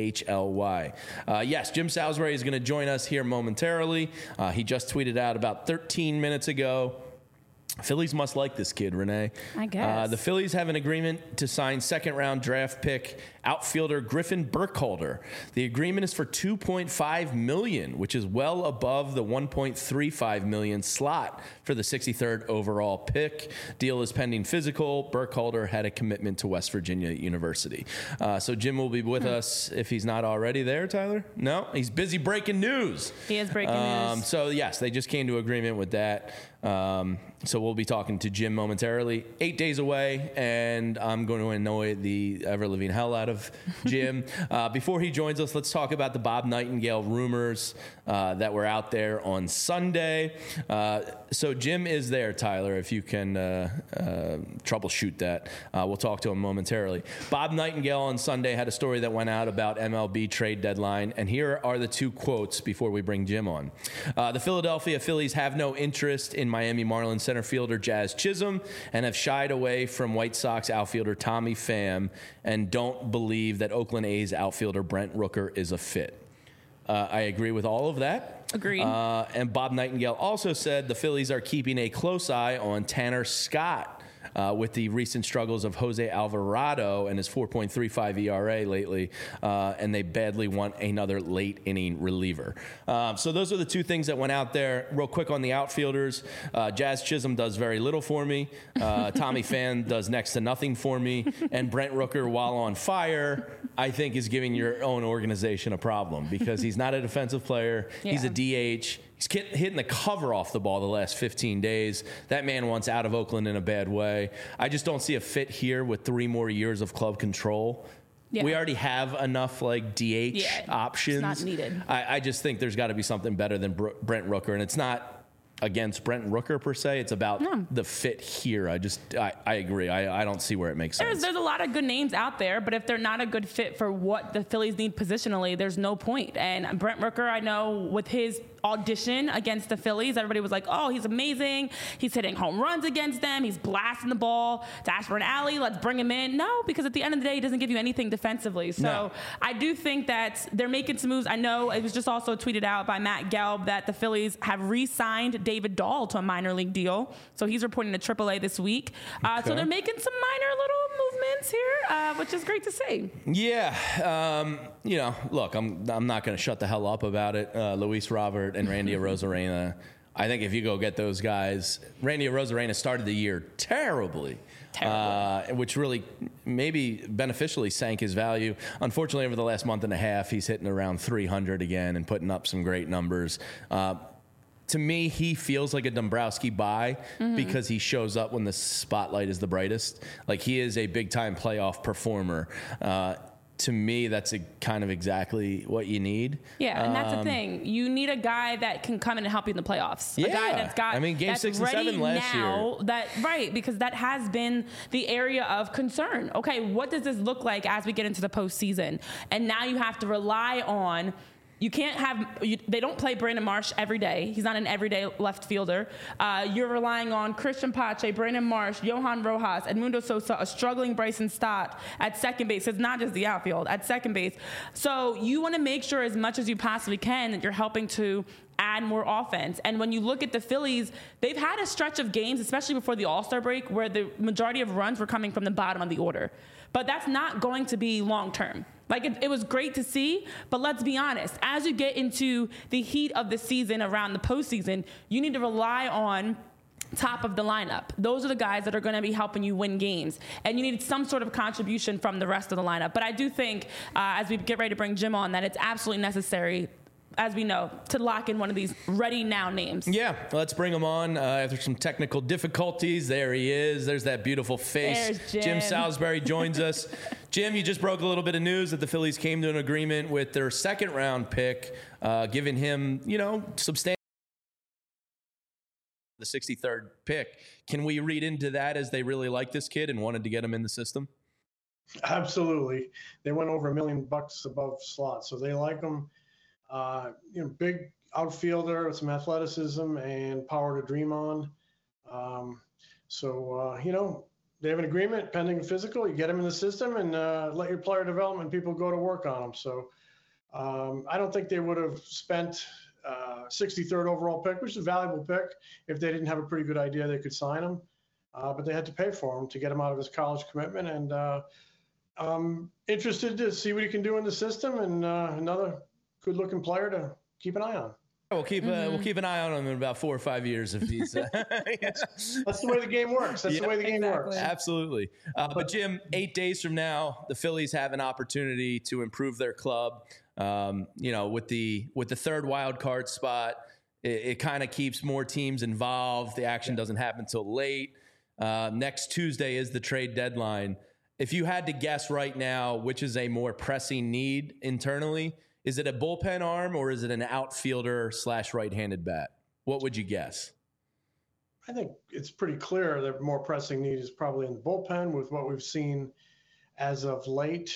PHLY. Uh, yes, Jim Salisbury is going to join us here momentarily. Uh, he just tweeted out about thirteen minutes ago. Phillies must like this kid, Renee. I guess. Uh, the Phillies have an agreement to sign second-round draft pick outfielder Griffin Burkholder. The agreement is for two point five million dollars, which is well above the one point three five million dollars slot for the sixty-third overall pick. Deal is pending physical. Burkholder had a commitment to West Virginia University. Uh, so Jim will be with hmm. us if he's not already there, Tyler? No? He's busy breaking news. He is breaking um, news. So, yes, they just came to agreement with that. Um, so we'll be talking to Jim momentarily. Eight days away, and I'm going to annoy the ever-living hell out of Jim. uh, before he joins us, let's talk about the Bob Nightingale rumors uh, that were out there on Sunday. Uh, so Jim is there, Tyler, if you can uh, uh, troubleshoot that. Uh, we'll talk to him momentarily. Bob Nightingale on Sunday had a story that went out about M L B trade deadline, and here are the two quotes before we bring Jim on. Uh, the Philadelphia Phillies have no interest in Miami Marlins center fielder Jazz Chisholm and have shied away from White Sox outfielder Tommy Pham and don't believe that Oakland A's outfielder Brent Rooker is a fit. Uh, I agree with all of that. Agreed. Uh, and Bob Nightingale also said the Phillies are keeping a close eye on Tanner Scott. Uh, with the recent struggles of Jose Alvarado and his four point three five E R A lately, uh, and they badly want another late-inning reliever. Um, so those are the two things that went out there. Real quick on the outfielders, uh, Jazz Chisholm does very little for me. Uh, Tommy Pham does next to nothing for me. And Brent Rooker, while on fire, I think is giving your own organization a problem because he's not a defensive player. Yeah. He's a D H. He's hitting the cover off the ball the last fifteen days. That man wants out of Oakland in a bad way. I just don't see a fit here with three more years of club control. Yeah. We already have enough like D H yeah, options. It's not needed. I, I just think there's got to be something better than Br- Brent Rooker, and it's not against Brent Rooker per se. It's about no. the fit here. I just I, I agree. I, I don't see where it makes sense. There's, there's a lot of good names out there, but if they're not a good fit for what the Phillies need positionally, there's no point. And Brent Rooker, I know with his audition against the Phillies. Everybody was like, oh, he's amazing. He's hitting home runs against them. He's blasting the ball to Ashburn Alley. Let's bring him in. No, because at the end of the day, he doesn't give you anything defensively. So no. I do think that they're making some moves. I know it was just also tweeted out by Matt Gelb that the Phillies have re-signed David Dahl to a minor league deal. So he's reporting to triple A this week. Uh, okay. So they're making some minor little movements here, uh, which is great to see. Yeah. Um, you know, look, I'm I'm not going to shut the hell up about it. Uh, Luis Robert and Randy Arozarena. I think if you go get those guys, Randy Arozarena started the year terribly. Uh, which really maybe beneficially sank his value. Unfortunately, over the last month and a half, he's hitting around three hundred again and putting up some great numbers. Uh, to me, he feels like a Dombrowski buy mm-hmm. because he shows up when the spotlight is the brightest. Like, he is a big-time playoff performer. Uh, to me, that's a kind of exactly what you need. Yeah, and that's um, the thing. You need a guy that can come in and help you in the playoffs. Yeah. A guy that's got I mean, game that's six and ready seven last now, year. That right, because that has been the area of concern. Okay, what does this look like as we get into the postseason? And now you have to rely on. You can't have, you, they don't play Brandon Marsh every day. He's not an everyday left fielder. Uh, you're relying on Christian Pache, Brandon Marsh, Johan Rojas, Edmundo Sosa, a struggling Bryson Stott at second base. It's not just the outfield, at second base. So you want to make sure as much as you possibly can that you're helping to add more offense. And when you look at the Phillies, they've had a stretch of games, especially before the All-Star break, where the majority of runs were coming from the bottom of the order. But that's not going to be long-term. Like, it, it was great to see, but let's be honest. As you get into the heat of the season around the postseason, you need to rely on top of the lineup. Those are the guys that are going to be helping you win games. And you need some sort of contribution from the rest of the lineup. But I do think, uh, as we get ready to bring Jim on, that it's absolutely necessary, as we know, to lock in one of these ready now names. Yeah, let's bring him on. Uh, after some technical difficulties, there he is. There's that beautiful face. There's Jim. Jim Salisbury joins us. Jim, you just broke a little bit of news that the Phillies came to an agreement with their second round pick, uh, giving him, you know, substantial. The sixty-third pick. Can we read into that as they really like this kid and wanted to get him in the system? Absolutely. They went over a million bucks above slot, so they like him. Uh, you know, big outfielder with some athleticism and power to dream on. Um, so, uh, you know, they have an agreement pending physical. You get them in the system and uh, let your player development people go to work on them. So um, I don't think they would have spent uh, sixty-third overall pick, which is a valuable pick, if they didn't have a pretty good idea they could sign him. Uh, but they had to pay for him to get him out of his college commitment. And uh, I'm interested to see what he can do in the system, and uh, another good-looking player to keep an eye on. We'll keep Mm-hmm. uh, we'll keep an eye on him in about four or five years if he's. Uh, That's the way the game works. That's Yeah, the way the game exactly. works. Absolutely. Uh, but Jim, eight days from now, the Phillies have an opportunity to improve their club. Um, you know, with the with the third wild card spot, it, it kind of keeps more teams involved. The action doesn't happen until late. Uh, next Tuesday is the trade deadline. If you had to guess right now, which is a more pressing need internally? Is it a bullpen arm or is it an outfielder slash right-handed bat? What would you guess? I think it's pretty clear that more pressing need is probably in the bullpen with what we've seen as of late.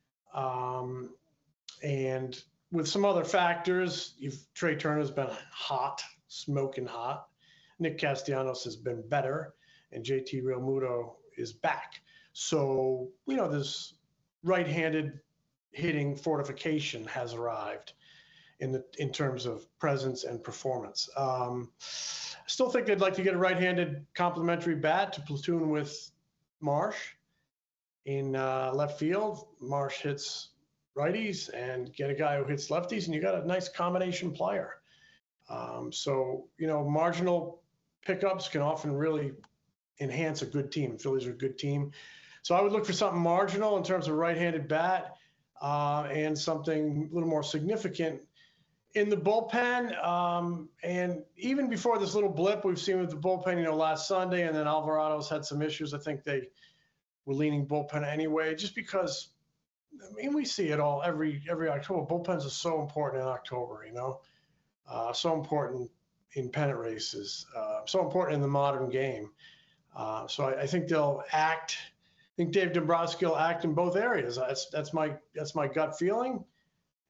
Um, and with some other factors, you've, Trey Turner's been hot, smoking hot. Nick Castellanos has been better, and J T Realmuto is back. So, you know, this right-handed hitting fortification has arrived in the in terms of presence and performance. Um, I still think they'd like to get a right-handed complementary bat to platoon with Marsh in uh, left field. Marsh hits righties, and get a guy who hits lefties, and you got a nice combination player. Um, so, you know, marginal pickups can often really enhance a good team. Phillies are a good team. So I would look for something marginal in terms of right-handed bat. Uh, and something a little more significant in the bullpen. Um, and even before this little blip we've seen with the bullpen, you know, last Sunday, and then Alvarado's had some issues. I think they were leaning bullpen anyway, just because, I mean, we see it all every every October. Bullpens are so important in October, you know, uh, so important in pennant races, uh, so important in the modern game. Uh, so I, I think they'll act. I think Dave Dombrowski will act in both areas. That's that's my that's my gut feeling,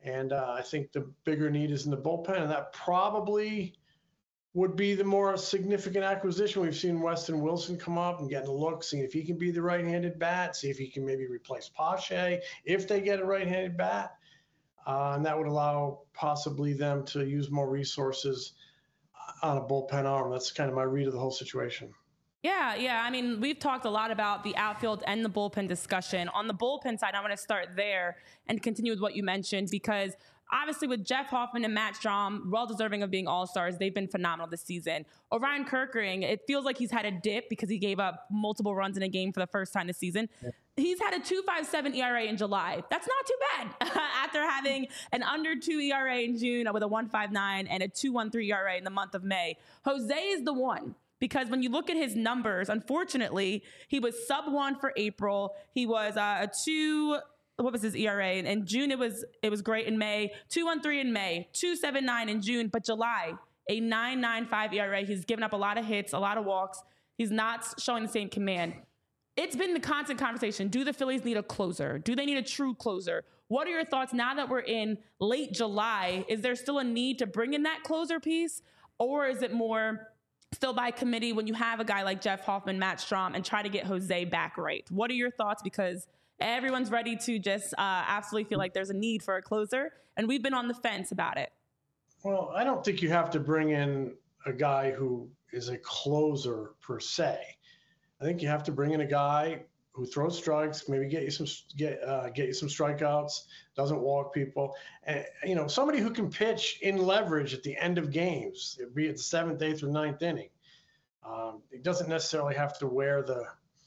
And uh, I think the bigger need is in the bullpen, and that probably would be the more significant acquisition. We've seen Weston Wilson come up and get a look, seeing if he can be the right-handed bat, see if he can maybe replace Pache if they get a right-handed bat. Uh, and that would allow possibly them to use more resources on a bullpen arm. That's kind of my read of the whole situation. Yeah, yeah. I mean, we've talked a lot about the outfield and the bullpen discussion. On the bullpen side, I want to start there and continue with what you mentioned, because obviously with Jeff Hoffman and Matt Strahm, well-deserving of being all-stars, they've been phenomenal this season. Orion Kerkering, it feels like he's had a dip because he gave up multiple runs in a game for the first time this season. Yeah. He's had a two point five seven E R A in July. That's not too bad after having an under two E R A in June with a one point five nine and a two point one three E R A in the month of May. Jose is the one. Because when you look at his numbers, unfortunately, he was sub one for April. He was uh, a two, what was his E R A? In June, it was it was great in May. two point one three in May, two point seven nine in June. But July, a nine point nine five E R A. He's given up a lot of hits, a lot of walks. He's not showing the same command. It's been the constant conversation. Do the Phillies need a closer? Do they need a true closer? What are your thoughts now that we're in late July? Is there still a need to bring in that closer piece? Or is it more still by committee when you have a guy like Jeff Hoffman, Matt Strahm, and try to get Jose back right? What are your thoughts? Because everyone's ready to just uh, absolutely feel like there's a need for a closer, and we've been on the fence about it. Well, I don't think you have to bring in a guy who is a closer per se. I think you have to bring in a guy who throws strikes, maybe get you some get uh, get you some strikeouts, doesn't walk people, and you know, somebody who can pitch in leverage at the end of games, be it the seventh, eighth, or ninth inning. Um, he doesn't necessarily have to wear the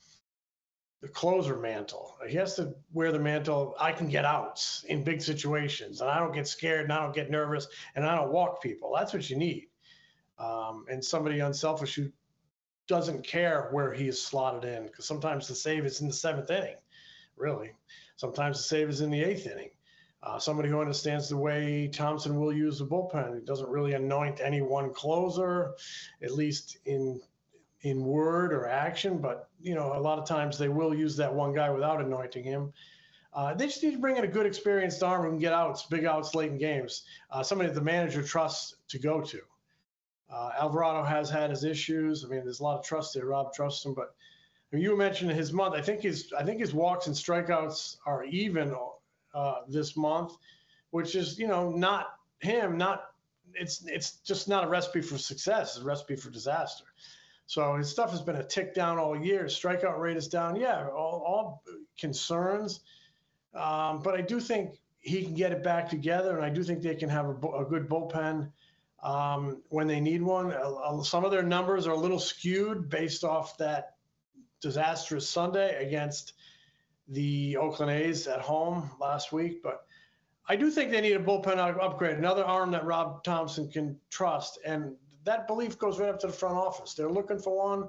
the closer mantle. He has to wear the mantle. I can get outs in big situations, and I don't get scared, and I don't get nervous, and I don't walk people. That's what you need, um, and somebody unselfish who doesn't care where he is slotted in, because sometimes the save is in the seventh inning, really. Sometimes the save is in the eighth inning. Uh, somebody who understands the way Thompson will use the bullpen. He doesn't really anoint any one closer, at least in in word or action, but you know, a lot of times they will use that one guy without anointing him. Uh, they just need to bring in a good experienced arm who can get outs, big outs late in games. Uh, somebody that the manager trusts to go to. Uh, Alvarado has had his issues. I mean, there's a lot of trust there. Rob trusts him, but I mean, you mentioned his month. I think his I think his walks and strikeouts are even uh, this month, which is, you know, not him. Not it's it's just not a recipe for success. It's a recipe for disaster. So his stuff has been a tick down all year. His strikeout rate is down. Yeah, all, all concerns, um, but I do think he can get it back together, and I do think they can have a, a good bullpen. Um, when they need one. Uh, some of their numbers are a little skewed based off that disastrous Sunday against the Oakland A's at home last week. But I do think they need a bullpen upgrade, another arm that Rob Thompson can trust. And that belief goes right up to the front office. They're looking for one.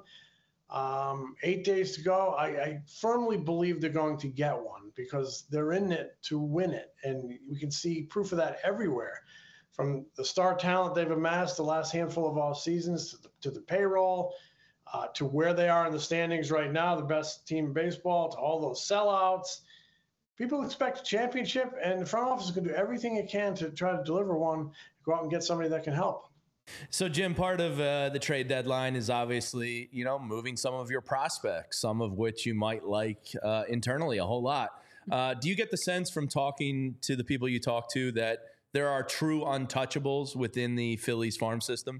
Um, eight days to go. I, I firmly believe they're going to get one because they're in it to win it. And we can see proof of that everywhere. From the star talent they've amassed the last handful of off seasons to the, to the payroll, uh, to where they are in the standings right now, the best team in baseball, to all those sellouts. People expect a championship, and the front office is going to do everything it can to try to deliver one, go out and get somebody that can help. So, Jim, part of uh, the trade deadline is obviously, you know, moving some of your prospects, some of which you might like uh, internally a whole lot. Uh, do you get the sense from talking to the people you talk to that there are true untouchables within the Phillies farm system?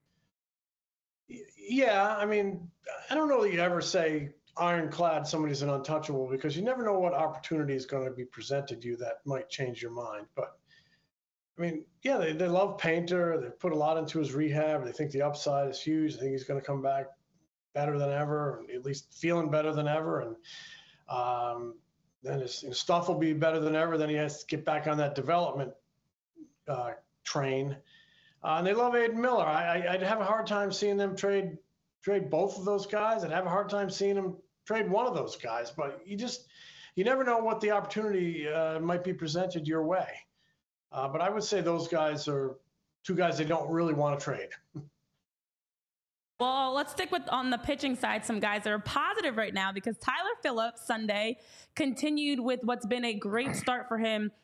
Yeah, I mean, I don't know that you ever say ironclad somebody's an untouchable, because you never know what opportunity is going to be presented to you that might change your mind. But, I mean, yeah, they, they love Painter. They put a lot into his rehab. They think the upside is huge. I think he's going to come back better than ever, at least feeling better than ever. And um, then his, his stuff will be better than ever. Then he has to get back on that development Uh, train, uh, and they love Aiden Miller. I, I, I'd have a hard time seeing them trade trade both of those guys. I'd have a hard time seeing them trade one of those guys. But you just you never know what the opportunity uh, might be presented your way. Uh, but I would say those guys are two guys they don't really want to trade. Well, let's stick with on the pitching side, some guys that are positive right now, because Tyler Phillips Sunday continued with what's been a great start for him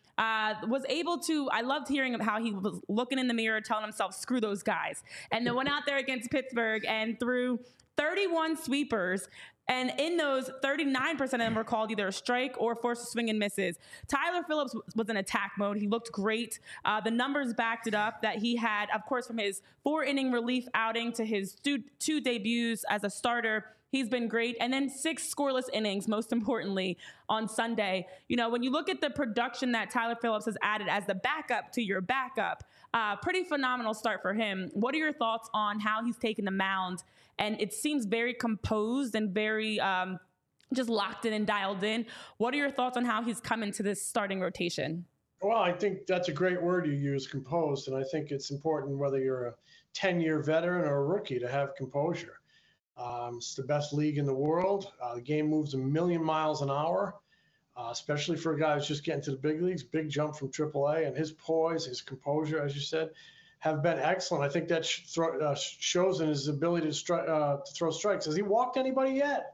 Uh, was able to, I loved hearing how he was looking in the mirror, telling himself, screw those guys. And then went out there against Pittsburgh and threw thirty-one sweepers. And in those, thirty-nine percent of them were called either a strike or forced to swing and misses. Tyler Phillips was in attack mode. He looked great. Uh, the numbers backed it up that he had, of course, from his four-inning relief outing to his two, two debuts as a starter. He's been great. And then six scoreless innings, most importantly, on Sunday. You know, when you look at the production that Tyler Phillips has added as the backup to your backup, uh, pretty phenomenal start for him. What are your thoughts on how he's taken the mound? And it seems very composed and very um, just locked in and dialed in. What are your thoughts on how he's come into this starting rotation? Well, I think that's a great word you use, composed. And I think it's important whether you're a ten-year veteran or a rookie to have composure. Um, it's the best league in the world. Uh, the game moves a million miles an hour, uh, especially for a guy who's just getting to the big leagues. Big jump from triple A, and his poise, his composure, as you said, have been excellent. I think that sh- thro- uh, shows in his ability to, stri- uh, to throw strikes. Has he walked anybody yet?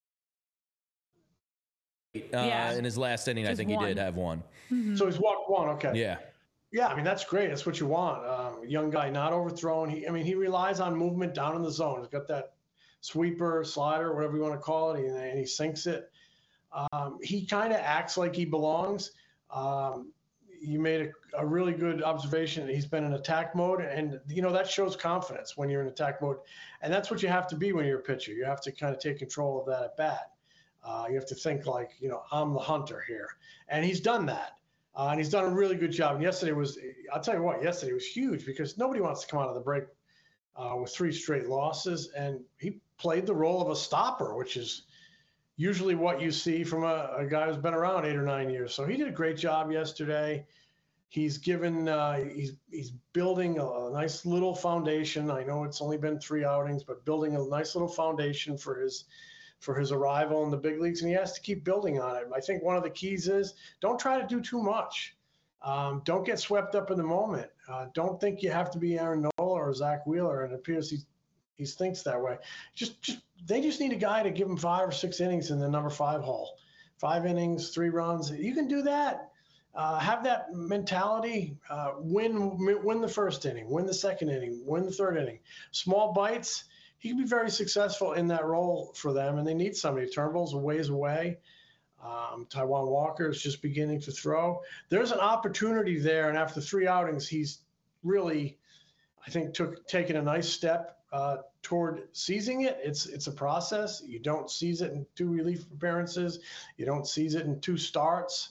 Uh, Yeah. In his last inning, I Just think one. he did have one. Mm-hmm. So he's walked one. Okay. Yeah. Yeah, I mean, that's great. That's what you want. Um, young guy, not overthrown. He, I mean, he relies on movement down in the zone. He's got that sweeper, slider, whatever you want to call it, and, and he sinks it. Um, he kind of acts like he belongs. Um, you made a, a really good observation. He's been in attack mode, and, you know, that shows confidence when you're in attack mode. And that's what you have to be when you're a pitcher. You have to kind of take control of that at bat. Uh, you have to think like, you know, I'm the hunter here. And he's done that. Uh, and he's done a really good job. And yesterday was, I'll tell you what, yesterday was huge because nobody wants to come out of the break uh, with three straight losses. And he played the role of a stopper, which is usually what you see from a, a guy who's been around eight or nine years. So he did a great job yesterday. He's given, uh, he's he's building a, a nice little foundation. I know it's only been three outings, but building a nice little foundation for his for his arrival in the big leagues, and he has to keep building on it. I think one of the keys is don't try to do too much. Um, don't get swept up in the moment. Uh, don't think you have to be Aaron Nola or Zach Wheeler, and it appears he he thinks that way. Just just they just need a guy to give him five or six innings in the number five hole. Five innings, three runs. You can do that. Uh, have that mentality. Uh, win win the first inning, win the second inning, win the third inning. Small bites. He can be very successful in that role for them, and they need somebody. Turnbull's a ways away. Um, Taijuan Walker is just beginning to throw. There's an opportunity there, and after three outings, he's really, I think, took taken a nice step uh, toward seizing it. It's it's a process. You don't seize it in two relief appearances. You don't seize it in two starts.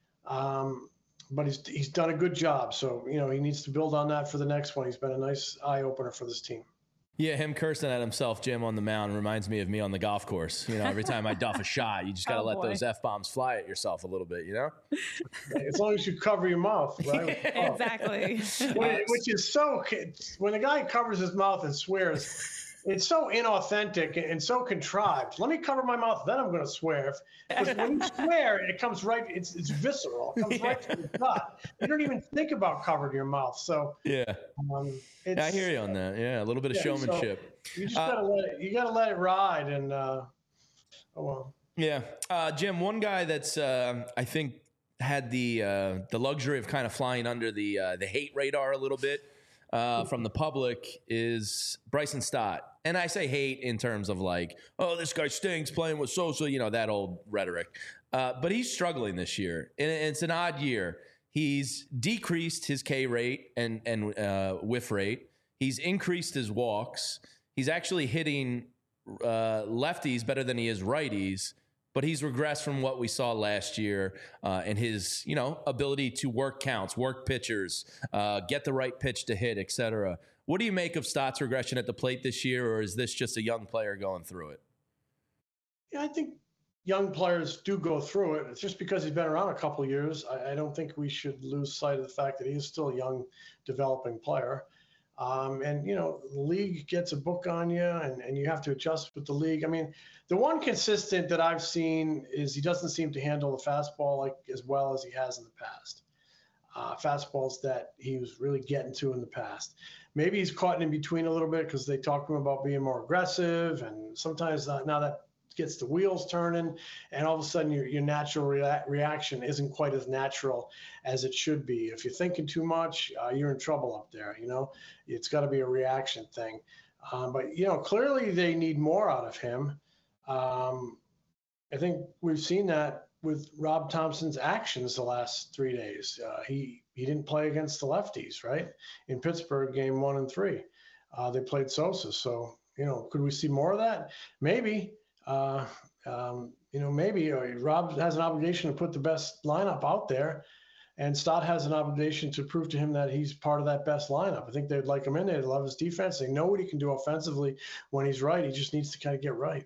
Um, but he's he's done a good job. So, you know, he needs to build on that for the next one. He's been a nice eye opener for this team. Yeah, him cursing at himself, Jim, on the mound reminds me of me on the golf course. You know, every time I duff a shot, you just got to Oh, let boy. those F-bombs fly at yourself a little bit, you know? As long as you cover your mouth, right? Oh. Exactly. Which- Which is so, when a guy covers his mouth and swears, it's so inauthentic and so contrived. Let me cover my mouth, then I'm going to swear. Because when you swear, it comes right, it's it's visceral. It comes right to the gut. You don't even think about covering your mouth. So Yeah. um, it's, I hear you on that. Yeah, a little bit of Yeah, so- showmanship. you just Uh, gotta let it. You gotta let it ride, and uh, oh well. Yeah, uh, Jim. One guy that's uh, I think had the uh, the luxury of kind of flying under the uh, the hate radar a little bit uh, from the public is Bryson Stott, and I say hate in terms of like, oh, this guy stinks playing with Sosa, you know, that old rhetoric. Uh, but he's struggling this year, and it's an odd year. He's decreased his K rate and and uh, whiff rate. He's increased his walks. He's actually hitting uh, lefties better than he is righties, but he's regressed from what we saw last year uh, in his, you know, ability to work counts, work pitchers, uh, get the right pitch to hit, et cetera. What do you make of Stott's regression at the plate this year, or is this just a young player going through it? Yeah, I think young players do go through it. It's just because he's been around a couple of years. I, I don't think we should lose sight of the fact that he is still a young, developing player. Um, and, you know, the league gets a book on you, and, and you have to adjust with the league. I mean, the one consistent that I've seen is he doesn't seem to handle the fastball like as well as he has in the past. Uh, fastballs that he was really getting to in the past. Maybe he's caught in between a little bit because they talk to him about being more aggressive, and sometimes uh, now that gets the wheels turning, and all of a sudden your, your natural rea- reaction isn't quite as natural as it should be. If you're thinking too much, uh, you're in trouble up there. You know, it's got to be a reaction thing. Um, but, you know, clearly they need more out of him. Um, I think we've seen that with Rob Thompson's actions the last three days. Uh, he, he didn't play against the lefties, right? In Pittsburgh, game one and three. Uh, they played Sosa. So, you know, could we see more of that? Maybe. Uh, um, you know, maybe uh, Rob has an obligation to put the best lineup out there, and Stott has an obligation to prove to him that he's part of that best lineup. I think they'd like him in there. They love his defense. They know what he can do offensively when he's right. He just needs to kind of get right.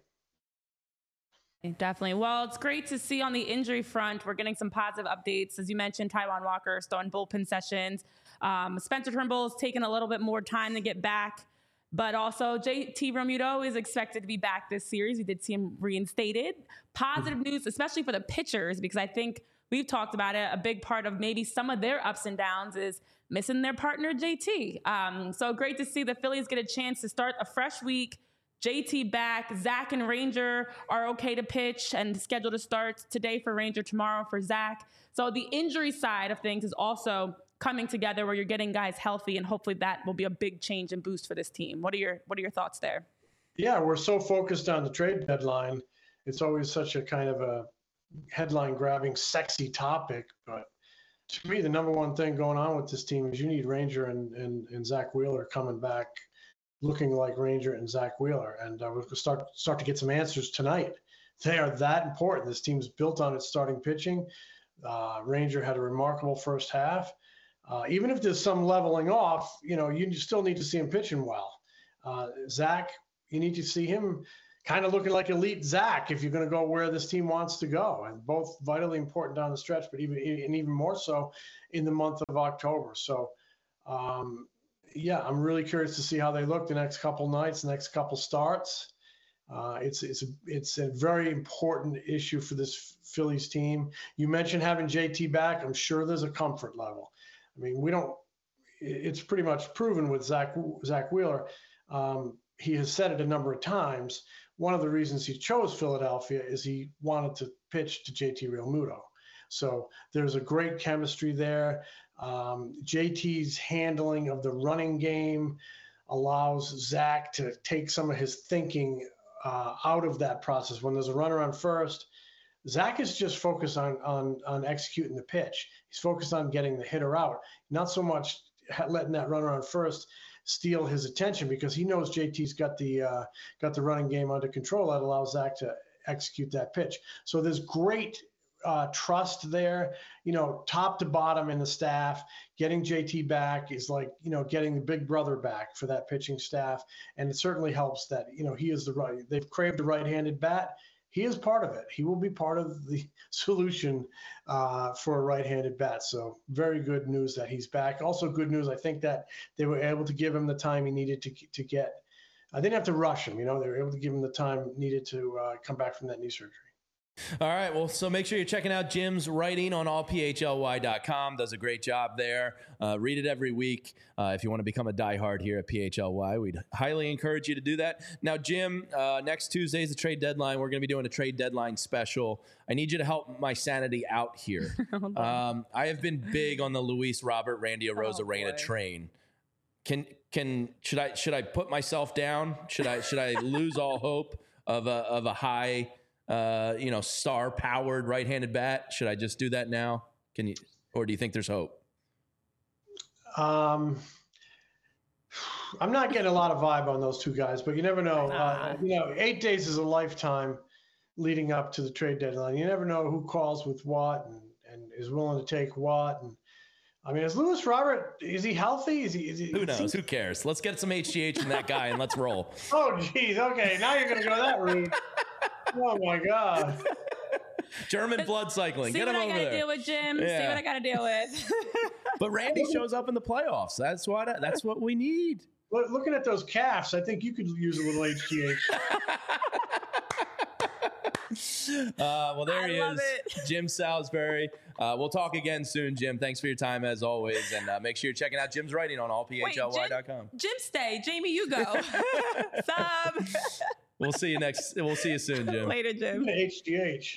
Definitely. Well, it's great to see on the injury front. We're getting some positive updates. As you mentioned, Taijuan Walker still in bullpen sessions. Um, Spencer Turnbull's taken a little bit more time to get back. But also, J T Realmuto is expected to be back this series. We did see him reinstated. Positive news, especially for the pitchers, because I think we've talked about it. A big part of maybe some of their ups and downs is missing their partner, J T. Um, so great to see the Phillies get a chance to start a fresh week. J T back. Zach and Ranger are okay to pitch and scheduled to start today for Ranger, tomorrow for Zach. So the injury side of things is also coming together where you're getting guys healthy, and hopefully that will be a big change and boost for this team. What are your What are your thoughts there? Yeah, we're so focused on the trade deadline. It's always such a kind of a headline-grabbing, sexy topic. But to me, the number one thing going on with this team is you need Ranger and, and, and Zach Wheeler coming back looking like Ranger and Zach Wheeler. And uh, we'll start, start to get some answers tonight. They are that important. This team's built on its starting pitching. Uh, Ranger had a remarkable first half. Uh, even if there's some leveling off, you know, you still need to see him pitching well. Uh, Zach, you need to see him kind of looking like elite Zach if you're going to go where this team wants to go. And both vitally important down the stretch, but even and even more so in the month of October. So, um, yeah, I'm really curious to see how they look the next couple nights, next couple starts. Uh, it's it's a, it's a very important issue for this Phillies team. You mentioned having J T back. I'm sure there's a comfort level. I mean, we don't. It's pretty much proven with Zach Zach Wheeler. Um, he has said it a number of times. One of the reasons he chose Philadelphia is he wanted to pitch to J T Realmuto. So there's a great chemistry there. Um, J T's handling of the running game allows Zach to take some of his thinking uh, out of that process. When there's a runner on first, Zach is just focused on, on, on executing the pitch. He's focused on getting the hitter out, not so much letting that runner on first steal his attention, because he knows J T's got the uh, got the running game under control that allows Zach to execute that pitch. So there's great uh, trust there, you know, top to bottom in the staff. Getting J T back is like, you know, getting the big brother back for that pitching staff. And it certainly helps that, you know, he is the right, they've craved a right-handed bat. He is part of it. He will be part of the solution uh, for a right-handed bat. So very good news that he's back. Also good news, I think, that they were able to give him the time he needed to to get. I didn't have to rush him. You know, they were able to give him the time needed to uh, come back from that knee surgery. All right, well, so make sure you're checking out Jim's writing on all p h l y dot com. Does a great job there. Uh, read it every week. Uh, if you want to become a diehard here at P H L Y, we'd highly encourage you to do that. Now, Jim, uh, next Tuesday is the trade deadline. We're going to be doing a trade deadline special. I need you to help my sanity out here. um, I have been big on the Luis Robert, Randy Arozarena oh, train. Can can should I should I put myself down? Should I should I lose all hope of a of a high uh, you know, star-powered right-handed bat? Should I just do that now? Can you, or do you think there's hope? Um, I'm not getting a lot of vibe on those two guys, but you never know. Uh, you know, eight days is a lifetime leading up to the trade deadline. You never know who calls with what and, and is willing to take what. And I mean, is Luis Robert, is he healthy? Is he? Is he who knows? He, who cares? Let's get some H G H in that guy and let's roll. Oh, geez. Okay, now you're going to go that route. Oh my God! German blood cycling. See Get him what I over gotta there. deal with, Jim. Yeah. See what I gotta deal with. But Randy shows up in the playoffs. That's what. That's what we need. Look, looking at those calves, I think you could use a little H G H. uh, well, there I he love is, it. Jim Salisbury. Uh, we'll talk again soon, Jim. Thanks for your time as always, and uh, make sure you're checking out Jim's writing on all p h l y dot com. Jim, Jim, stay. Jamie, you go. Sub. We'll see you next. We'll see you soon, Jim. Later, Jim. H G H.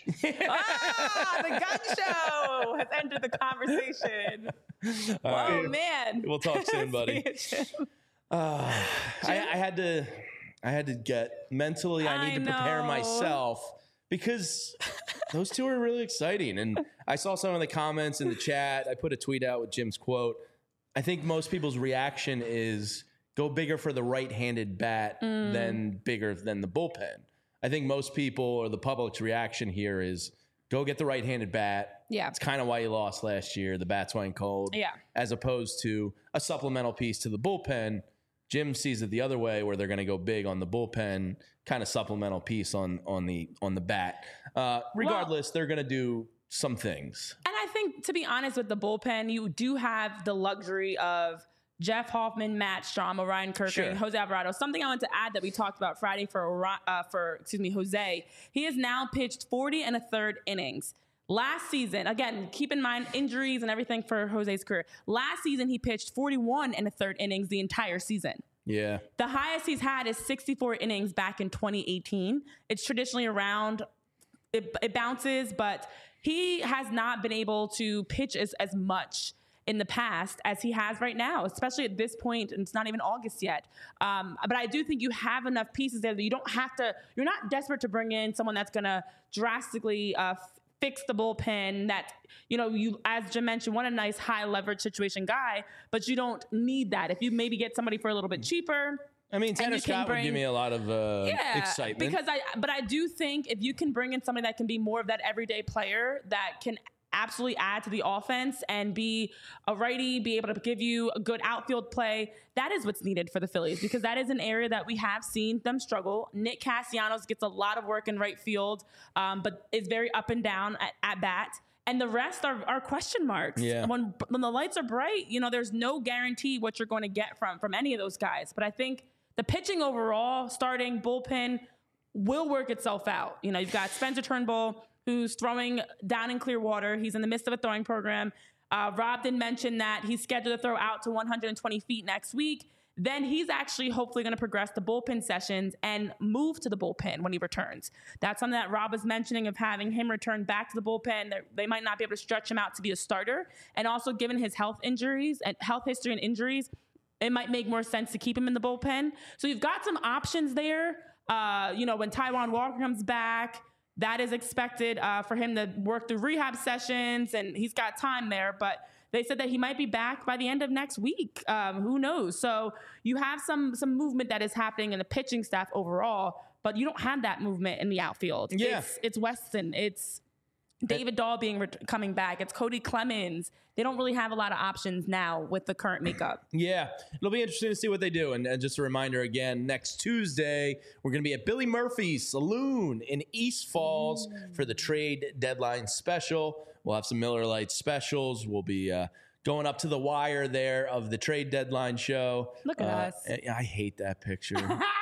Ah, the gun show has entered the conversation. All right. Oh man. We'll talk soon, buddy. See you, Jim. Uh, I, I had to, I had to get mentally. I need I to prepare know. myself because those two are really exciting. And I saw some of the comments in the chat. I put a tweet out with Jim's quote. I think most people's reaction is go bigger for the right-handed bat Mm. than bigger than the bullpen. I think most people or the public's reaction here is go get the right-handed bat. Yeah. It's kind of why you lost last year. The bats went cold. Yeah. As opposed to a supplemental piece to the bullpen. Jim sees it the other way, where they're going to go big on the bullpen, kind of supplemental piece on on the on the bat. Uh, regardless, well, they're going to do some things. And I think, to be honest, with the bullpen, you do have the luxury of Jeff Hoffman, Matt Strom, Orion Kirk, Sure. and Jose Alvarado. Something I want to add that we talked about Friday for uh, for excuse me Jose. He has now pitched forty and a third innings. Last season, again, keep in mind injuries and everything for Jose's career. Last season, he pitched forty-one and a third innings the entire season. Yeah. The highest he's had is sixty-four innings back in twenty eighteen. It's traditionally around, it, it bounces, but he has not been able to pitch as, as much in the past as he has right now, especially at this point, and it's not even August yet. Um, but I do think you have enough pieces there that you don't have to, you're not desperate to bring in someone that's going to drastically uh, fix the bullpen that, you know, you, as Jim mentioned, want a nice high leverage situation guy, but you don't need that. If you maybe get somebody for a little bit cheaper. I mean, Tanner Scott bring, would give me a lot of uh, yeah, excitement. Because I, but I do think if you can bring in somebody that can be more of that everyday player that can absolutely add to the offense and be a righty, be able to give you a good outfield play, that is what's needed for the Phillies, because that is an area that we have seen them struggle. Nick Castellanos gets a lot of work in right field, um, but is very up and down at, at bat. And the rest are, are question marks. Yeah. When, when the lights are bright, you know, there's no guarantee what you're going to get from, from any of those guys. But I think the pitching overall, starting bullpen, will work itself out. You know, you've got Spencer Turnbull, who's throwing down in Clearwater. He's in the midst of a throwing program. Uh, Rob did mention that he's scheduled to throw out to one hundred twenty feet next week. Then he's actually hopefully going to progress the bullpen sessions and move to the bullpen when he returns. That's something that Rob was mentioning, of having him return back to the bullpen. They're, they might not be able to stretch him out to be a starter. And also, given his health injuries and health history and injuries, it might make more sense to keep him in the bullpen. So you've got some options there. Uh, you know, when Taijuan Walker comes back, that is expected uh, for him to work through rehab sessions, and he's got time there. But they said that he might be back by the end of next week. Um, who knows? So you have some some movement that is happening in the pitching staff overall, but you don't have that movement in the outfield. Yeah. It's, it's Weston. It's David Dahl being ret- coming back. It's Cody Clemens. They don't really have a lot of options now with the current makeup. Yeah, it'll be interesting to see what they do. And, and just a reminder again, next Tuesday, we're going to be at Billy Murphy's Saloon in East Falls mm. for the trade deadline special. We'll have some Miller Lite specials. We'll be uh, going up to the wire there of the trade deadline show. Look at uh, us. I hate that picture.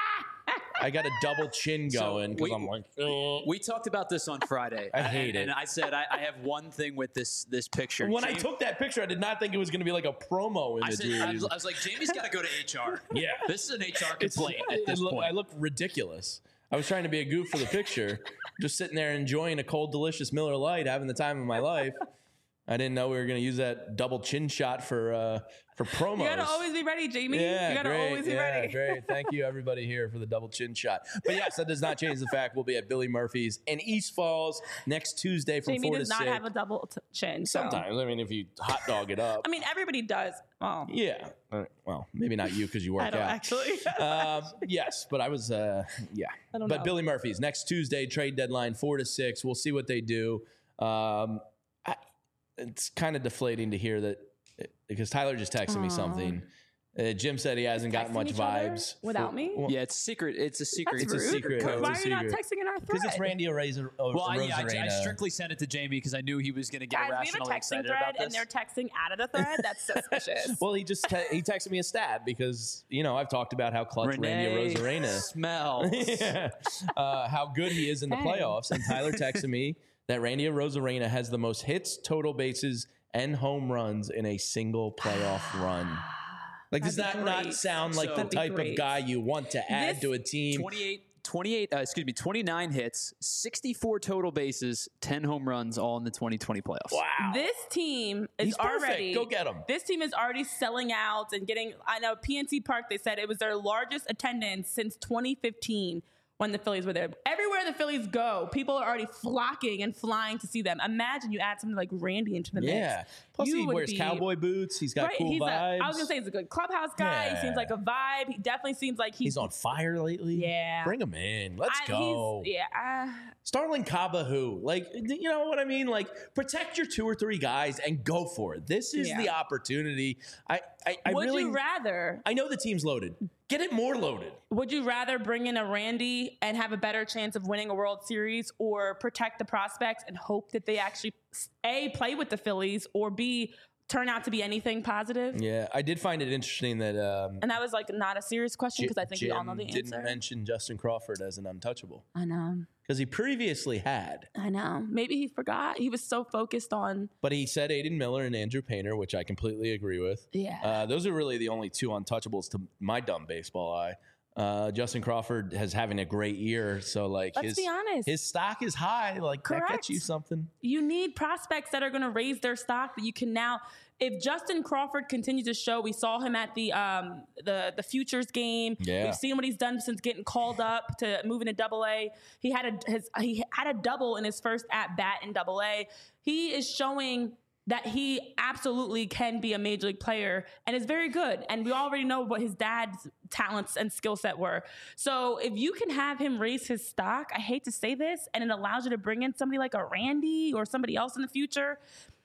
I got a double chin going because So I'm like, oh. We talked about this on Friday. I hate and, it. And I said I, I have one thing with this this picture. When Jamie, I took that picture, I did not think it was going to be like a promo I, image. said, we were I, was, using. I was like, Jamie's got to go to H R. Yeah. This is an H R It's- complaint at it this look- point. I look ridiculous. I was trying to be a goof for the picture, just sitting there enjoying a cold, delicious Miller Lite, having the time of my life. I didn't know we were going to use that double chin shot for uh, for promos. You gotta always be ready, Jamie. Yeah, you gotta great. always be yeah, ready. Great. Thank you, everybody here, for the double chin shot. But yes, that does not change the fact we'll be at Billy Murphy's in East Falls next Tuesday from Jamie four does to not six. have a double t- chin. So. Sometimes, I mean, if you hot dog it up. I mean, everybody does. Oh, Yeah. Uh, well, maybe not you because you work I don't out. actually. um, yes, but I was, uh, yeah. I don't but know. Billy Murphy's next Tuesday, trade deadline, four to six. We'll see what they do. Um, I, it's kind of deflating to hear that because Tyler just texted me something. Uh, Jim said he hasn't got Texting much each other vibes without for- me? well, yeah, it's secret. It's a secret. That's It's a rude. secret. Why It's a are you not secret. texting in our thread? Because it's Randy Arazer. O- Well, I, yeah, I, I Rosarena. strictly sent it to Jamie because I knew he was going to get Guys, we have a irrationally texting excited thread, about this. and they're texting out of the thread. That's suspicious. Well, he just te- he texted me a stat because you know I've talked about how clutch Randy Renee Rosarena smells. yeah. uh, how good he is in the Dang. playoffs. And Tyler texted me that Randy Rosarena has the most hits, total bases, and home runs in a single playoff run. Like, does that That'd be not great. sound like So- the That'd be type of great. guy you want to add This- to a team? twenty-eight, twenty-eight, uh, excuse me, twenty-nine hits, sixty-four total bases, ten home runs, all in the twenty twenty playoffs. Wow. This team is He's perfect. already Go get him. This team is already selling out and getting. I know P N C Park. They said it was their largest attendance since twenty fifteen when the Phillies were there. Everywhere the Phillies go, people are already flocking and flying to see them. Imagine you add something like Randy into the mix. Yeah. Plus, You he would wears be- cowboy boots. He's got Right, cool he's a, vibes. I was gonna say he's a good clubhouse guy. Yeah. He seems like a vibe. He definitely seems like he's, he's on fire lately. Yeah. Bring him in. Let's I- go. he's- Yeah, uh, Starling Kaba, who? Like, you know what I mean? Like, protect your two or three guys and go for it. This is Yeah. the opportunity. I, I, I would really. you rather? I know the team's loaded. Get it more loaded. Would you rather bring in a Randy and have a better chance of winning a World Series, or protect the prospects and hope that they actually A, play with the Phillies, or B, turn out to be anything positive? Yeah, I did find it interesting that um, And that was like not a serious question because I think we all know Jim the didn't answer. mention Justin Crawford as an untouchable I know. because he previously had, I know. Maybe he forgot. He was so focused on. but he said Aiden Miller and Andrew Painter, which I completely agree with. Yeah. Uh, those are really the only two untouchables to my dumb baseball eye. Uh, Justin Crawford has having a great year, so like Let's his be honest. his stock is high. Like that Correct. gets you something. You need prospects that are going to raise their stock that you can now. If Justin Crawford continues to show, we saw him at the um, the the futures game. Yeah. We've seen what he's done since getting called up to moving to Double A. He had a his he had a double in his first at bat in Double A. He is showing that he absolutely can be a major league player and is very good. And we already know what his dad's talents and skill set were. So if you can have him raise his stock, I hate to say this, and it allows you to bring in somebody like a Randy or somebody else in the future,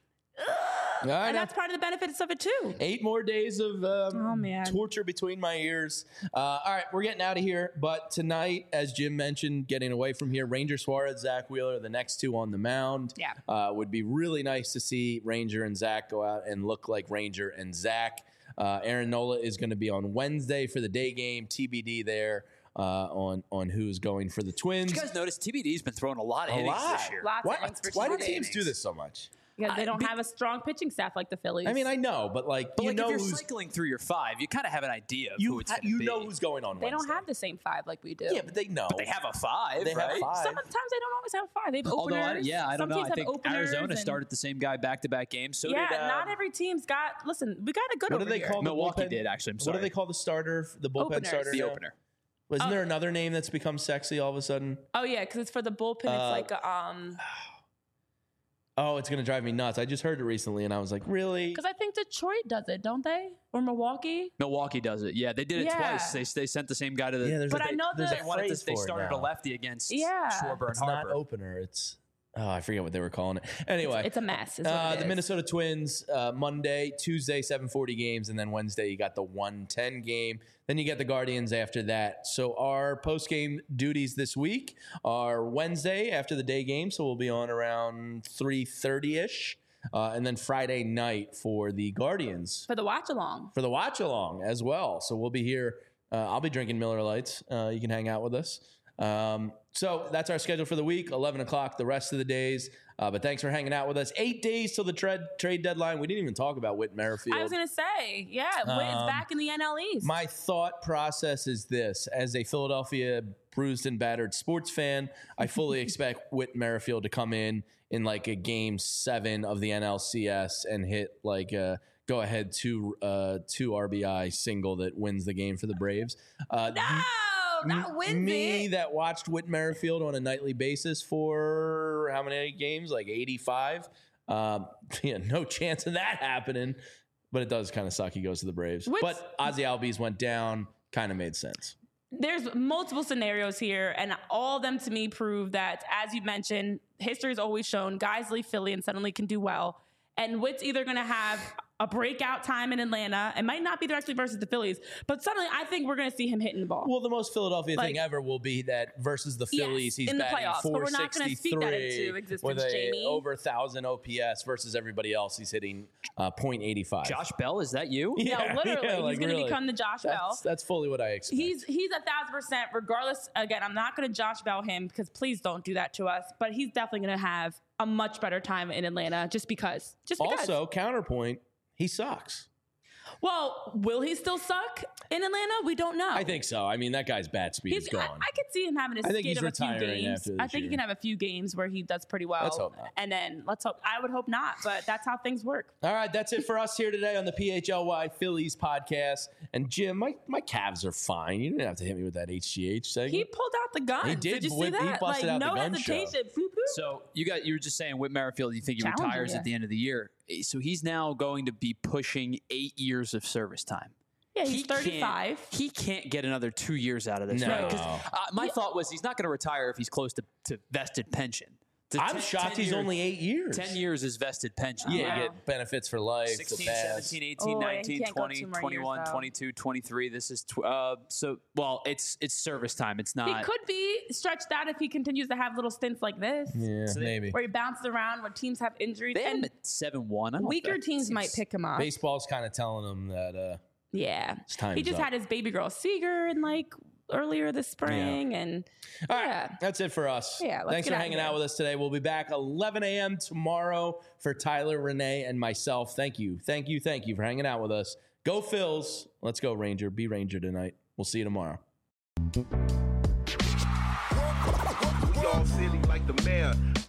I and know. that's part of the benefits of it too. Eight more days of um, Oh, man. torture between my ears. Uh, all right, we're getting out of here. But tonight, as Jim mentioned, getting away from here, Ranger Suarez, Zach Wheeler, the next two on the mound. Yeah. Uh, would be really nice to see Ranger and Zach go out and look like Ranger and Zach. Uh, Aaron Nola is going to be on Wednesday for the day game. T B D there uh, on, on who's going for the Twins. Did you guys notice T B D's been throwing a lot of A innings lot. this year? Lots Why, of innings for why do T V D. teams do this so much? Because they I- don't be- have a strong pitching staff like the Phillies. I mean, I know, but like But you like know if you're who's cycling through your five, you kind of have an idea of you who it's ha- going to you be. know who's going on. they don't Wednesday. have the same five like we do. Yeah, but they know. They have a five, They have right? five. Sometimes they don't always have five. They have Although, I, openers. yeah, I don't Some know. teams I have think openers Arizona and- started the same guy back-to-back games. So yeah, did uh, not every team's got. Listen, we got a good. What do over they here. call the Milwaukee bullpen? did, actually. I'm What sorry. do they call the starter, the bullpen Openers. starter? the now? opener? Wasn't Oh. there another name that's become sexy all of a sudden? Oh yeah, because it's for the bullpen. Uh, it's like a, um. Oh, it's gonna drive me nuts. I just heard it recently, and I was like, really? Because I think Detroit does it, don't they? Or Milwaukee? Milwaukee does it. Yeah, they did it Yeah. twice. They, they sent the same guy to the. Yeah, there's But a, I know there's that- a they wanted phrase to, they for it started now. a lefty against Yeah. Schwarber It's and not Harper. opener. It's oh, I forget what they were calling it. Anyway, It's a mess. Is what Uh, it the is. Minnesota Twins, uh, Monday, Tuesday, seven forty games, and then Wednesday you got the one ten game. Then you get the Guardians after that. So our post game duties this week are Wednesday after the day game, so we'll be on around three thirty ish, uh, and then Friday night for the Guardians for the watch along. for the watch along as well. So we'll be here. Uh, I'll be drinking Miller Lights. Uh, you can hang out with us. Um, so that's our schedule for the week, eleven o'clock the rest of the days. Uh, but thanks for hanging out with us. Eight days till the trade trade deadline. We didn't even talk about Whit Merrifield. I was gonna say, yeah, Whit is Um, back in the N L East. My thought process is this: as a Philadelphia bruised and battered sports fan, I fully expect Whit Merrifield to come in in like a game seven of the N L C S and hit like a go ahead two uh, two R B I single that wins the game for the Braves. Uh, no, not wins me it. that watched Whit Merrifield on a nightly basis for how many games? Like eighty-five. Um, yeah, no chance of that happening. But it does kind of suck. He goes to the Braves. Whit's- but Ozzy Albies went down. Kind of made sense. There's multiple scenarios here, and all of them to me prove that, as you mentioned, history has always shown guys leave Philly and suddenly can do well. And Whit's either going to have a breakout time in Atlanta. It might not be directly versus the Phillies, but suddenly I think we're going to see him hitting the ball. Well, the most Philadelphia Like- thing ever will be that versus the Yes, Phillies, he's in the batting playoffs, but we're not gonna speak that into four sixty-three existence, with a Jamie. over one thousand O P S versus everybody else. He's hitting uh, point eight five. Josh Bell, is that you? yeah, literally, yeah, he's like, going to really. become the Josh Bell. That's, that's fully what I expect. He's he's a thousand percent. Regardless, again, I'm not going to Josh Bell him because please don't do that to us. But he's definitely going to have a much better time in Atlanta just because. Just because. also counterpoint. He sucks. Well, will he still suck in Atlanta? We don't know. I think so. I mean, that guy's bat speed He's, is gone. I, I could see him having a I think skid he's of a few retiring games. after this I think year. he can have a few games where he does pretty well. Let's hope not. And then let's hope. I would hope not, but that's how things work. All right, that's it for us here today on the P H L Y Phillies podcast. And Jim, my, my calves are fine. You didn't have to hit me with that H G H segment. He pulled out the gun. He did. did you see Whip- he that? busted like out the no gun show. hesitation. Boop, boop. So you got you were just saying Whit Merrifield, you think he Challenging, retires yeah. at the end of the year. So he's now going to be pushing eight years of service time. Yeah, he's He can't- thirty-five. He can't get another two years out of this. No. Right? 'Cause, uh, my thought was he's not going to retire if he's close to, to vested pension. To I'm ten- shocked ten he's years- only eight years. ten years is vested pension. Yeah, Wow. you get benefits for life. the sixteen, pass. seventeen, eighteen, Oh, and he nineteen, can't go twenty, two more years, twenty-one, though. twenty-two, twenty-three. This is, tw- uh, so, well, it's it's service time. It's He not. could be stretched out if he continues to have little stints like this, Yeah, So they- maybe. where he bounces around when teams have injuries. They had him And at seven one. I don't know if weaker that teams seems- might pick him up. Baseball's kind of telling him that uh, Yeah. time's He just up. had his baby girl Seager in like earlier this spring. And All right, yeah. that's it for us. Yeah, let's Thanks get for out of hanging here. out with us today. We'll be back eleven a.m. tomorrow for Tyler, Renee, and myself. Thank you, thank you, thank you for hanging out with us. Go Phils. Let's go Ranger. Be Ranger tonight. We'll see you tomorrow. We all silly like the mayor.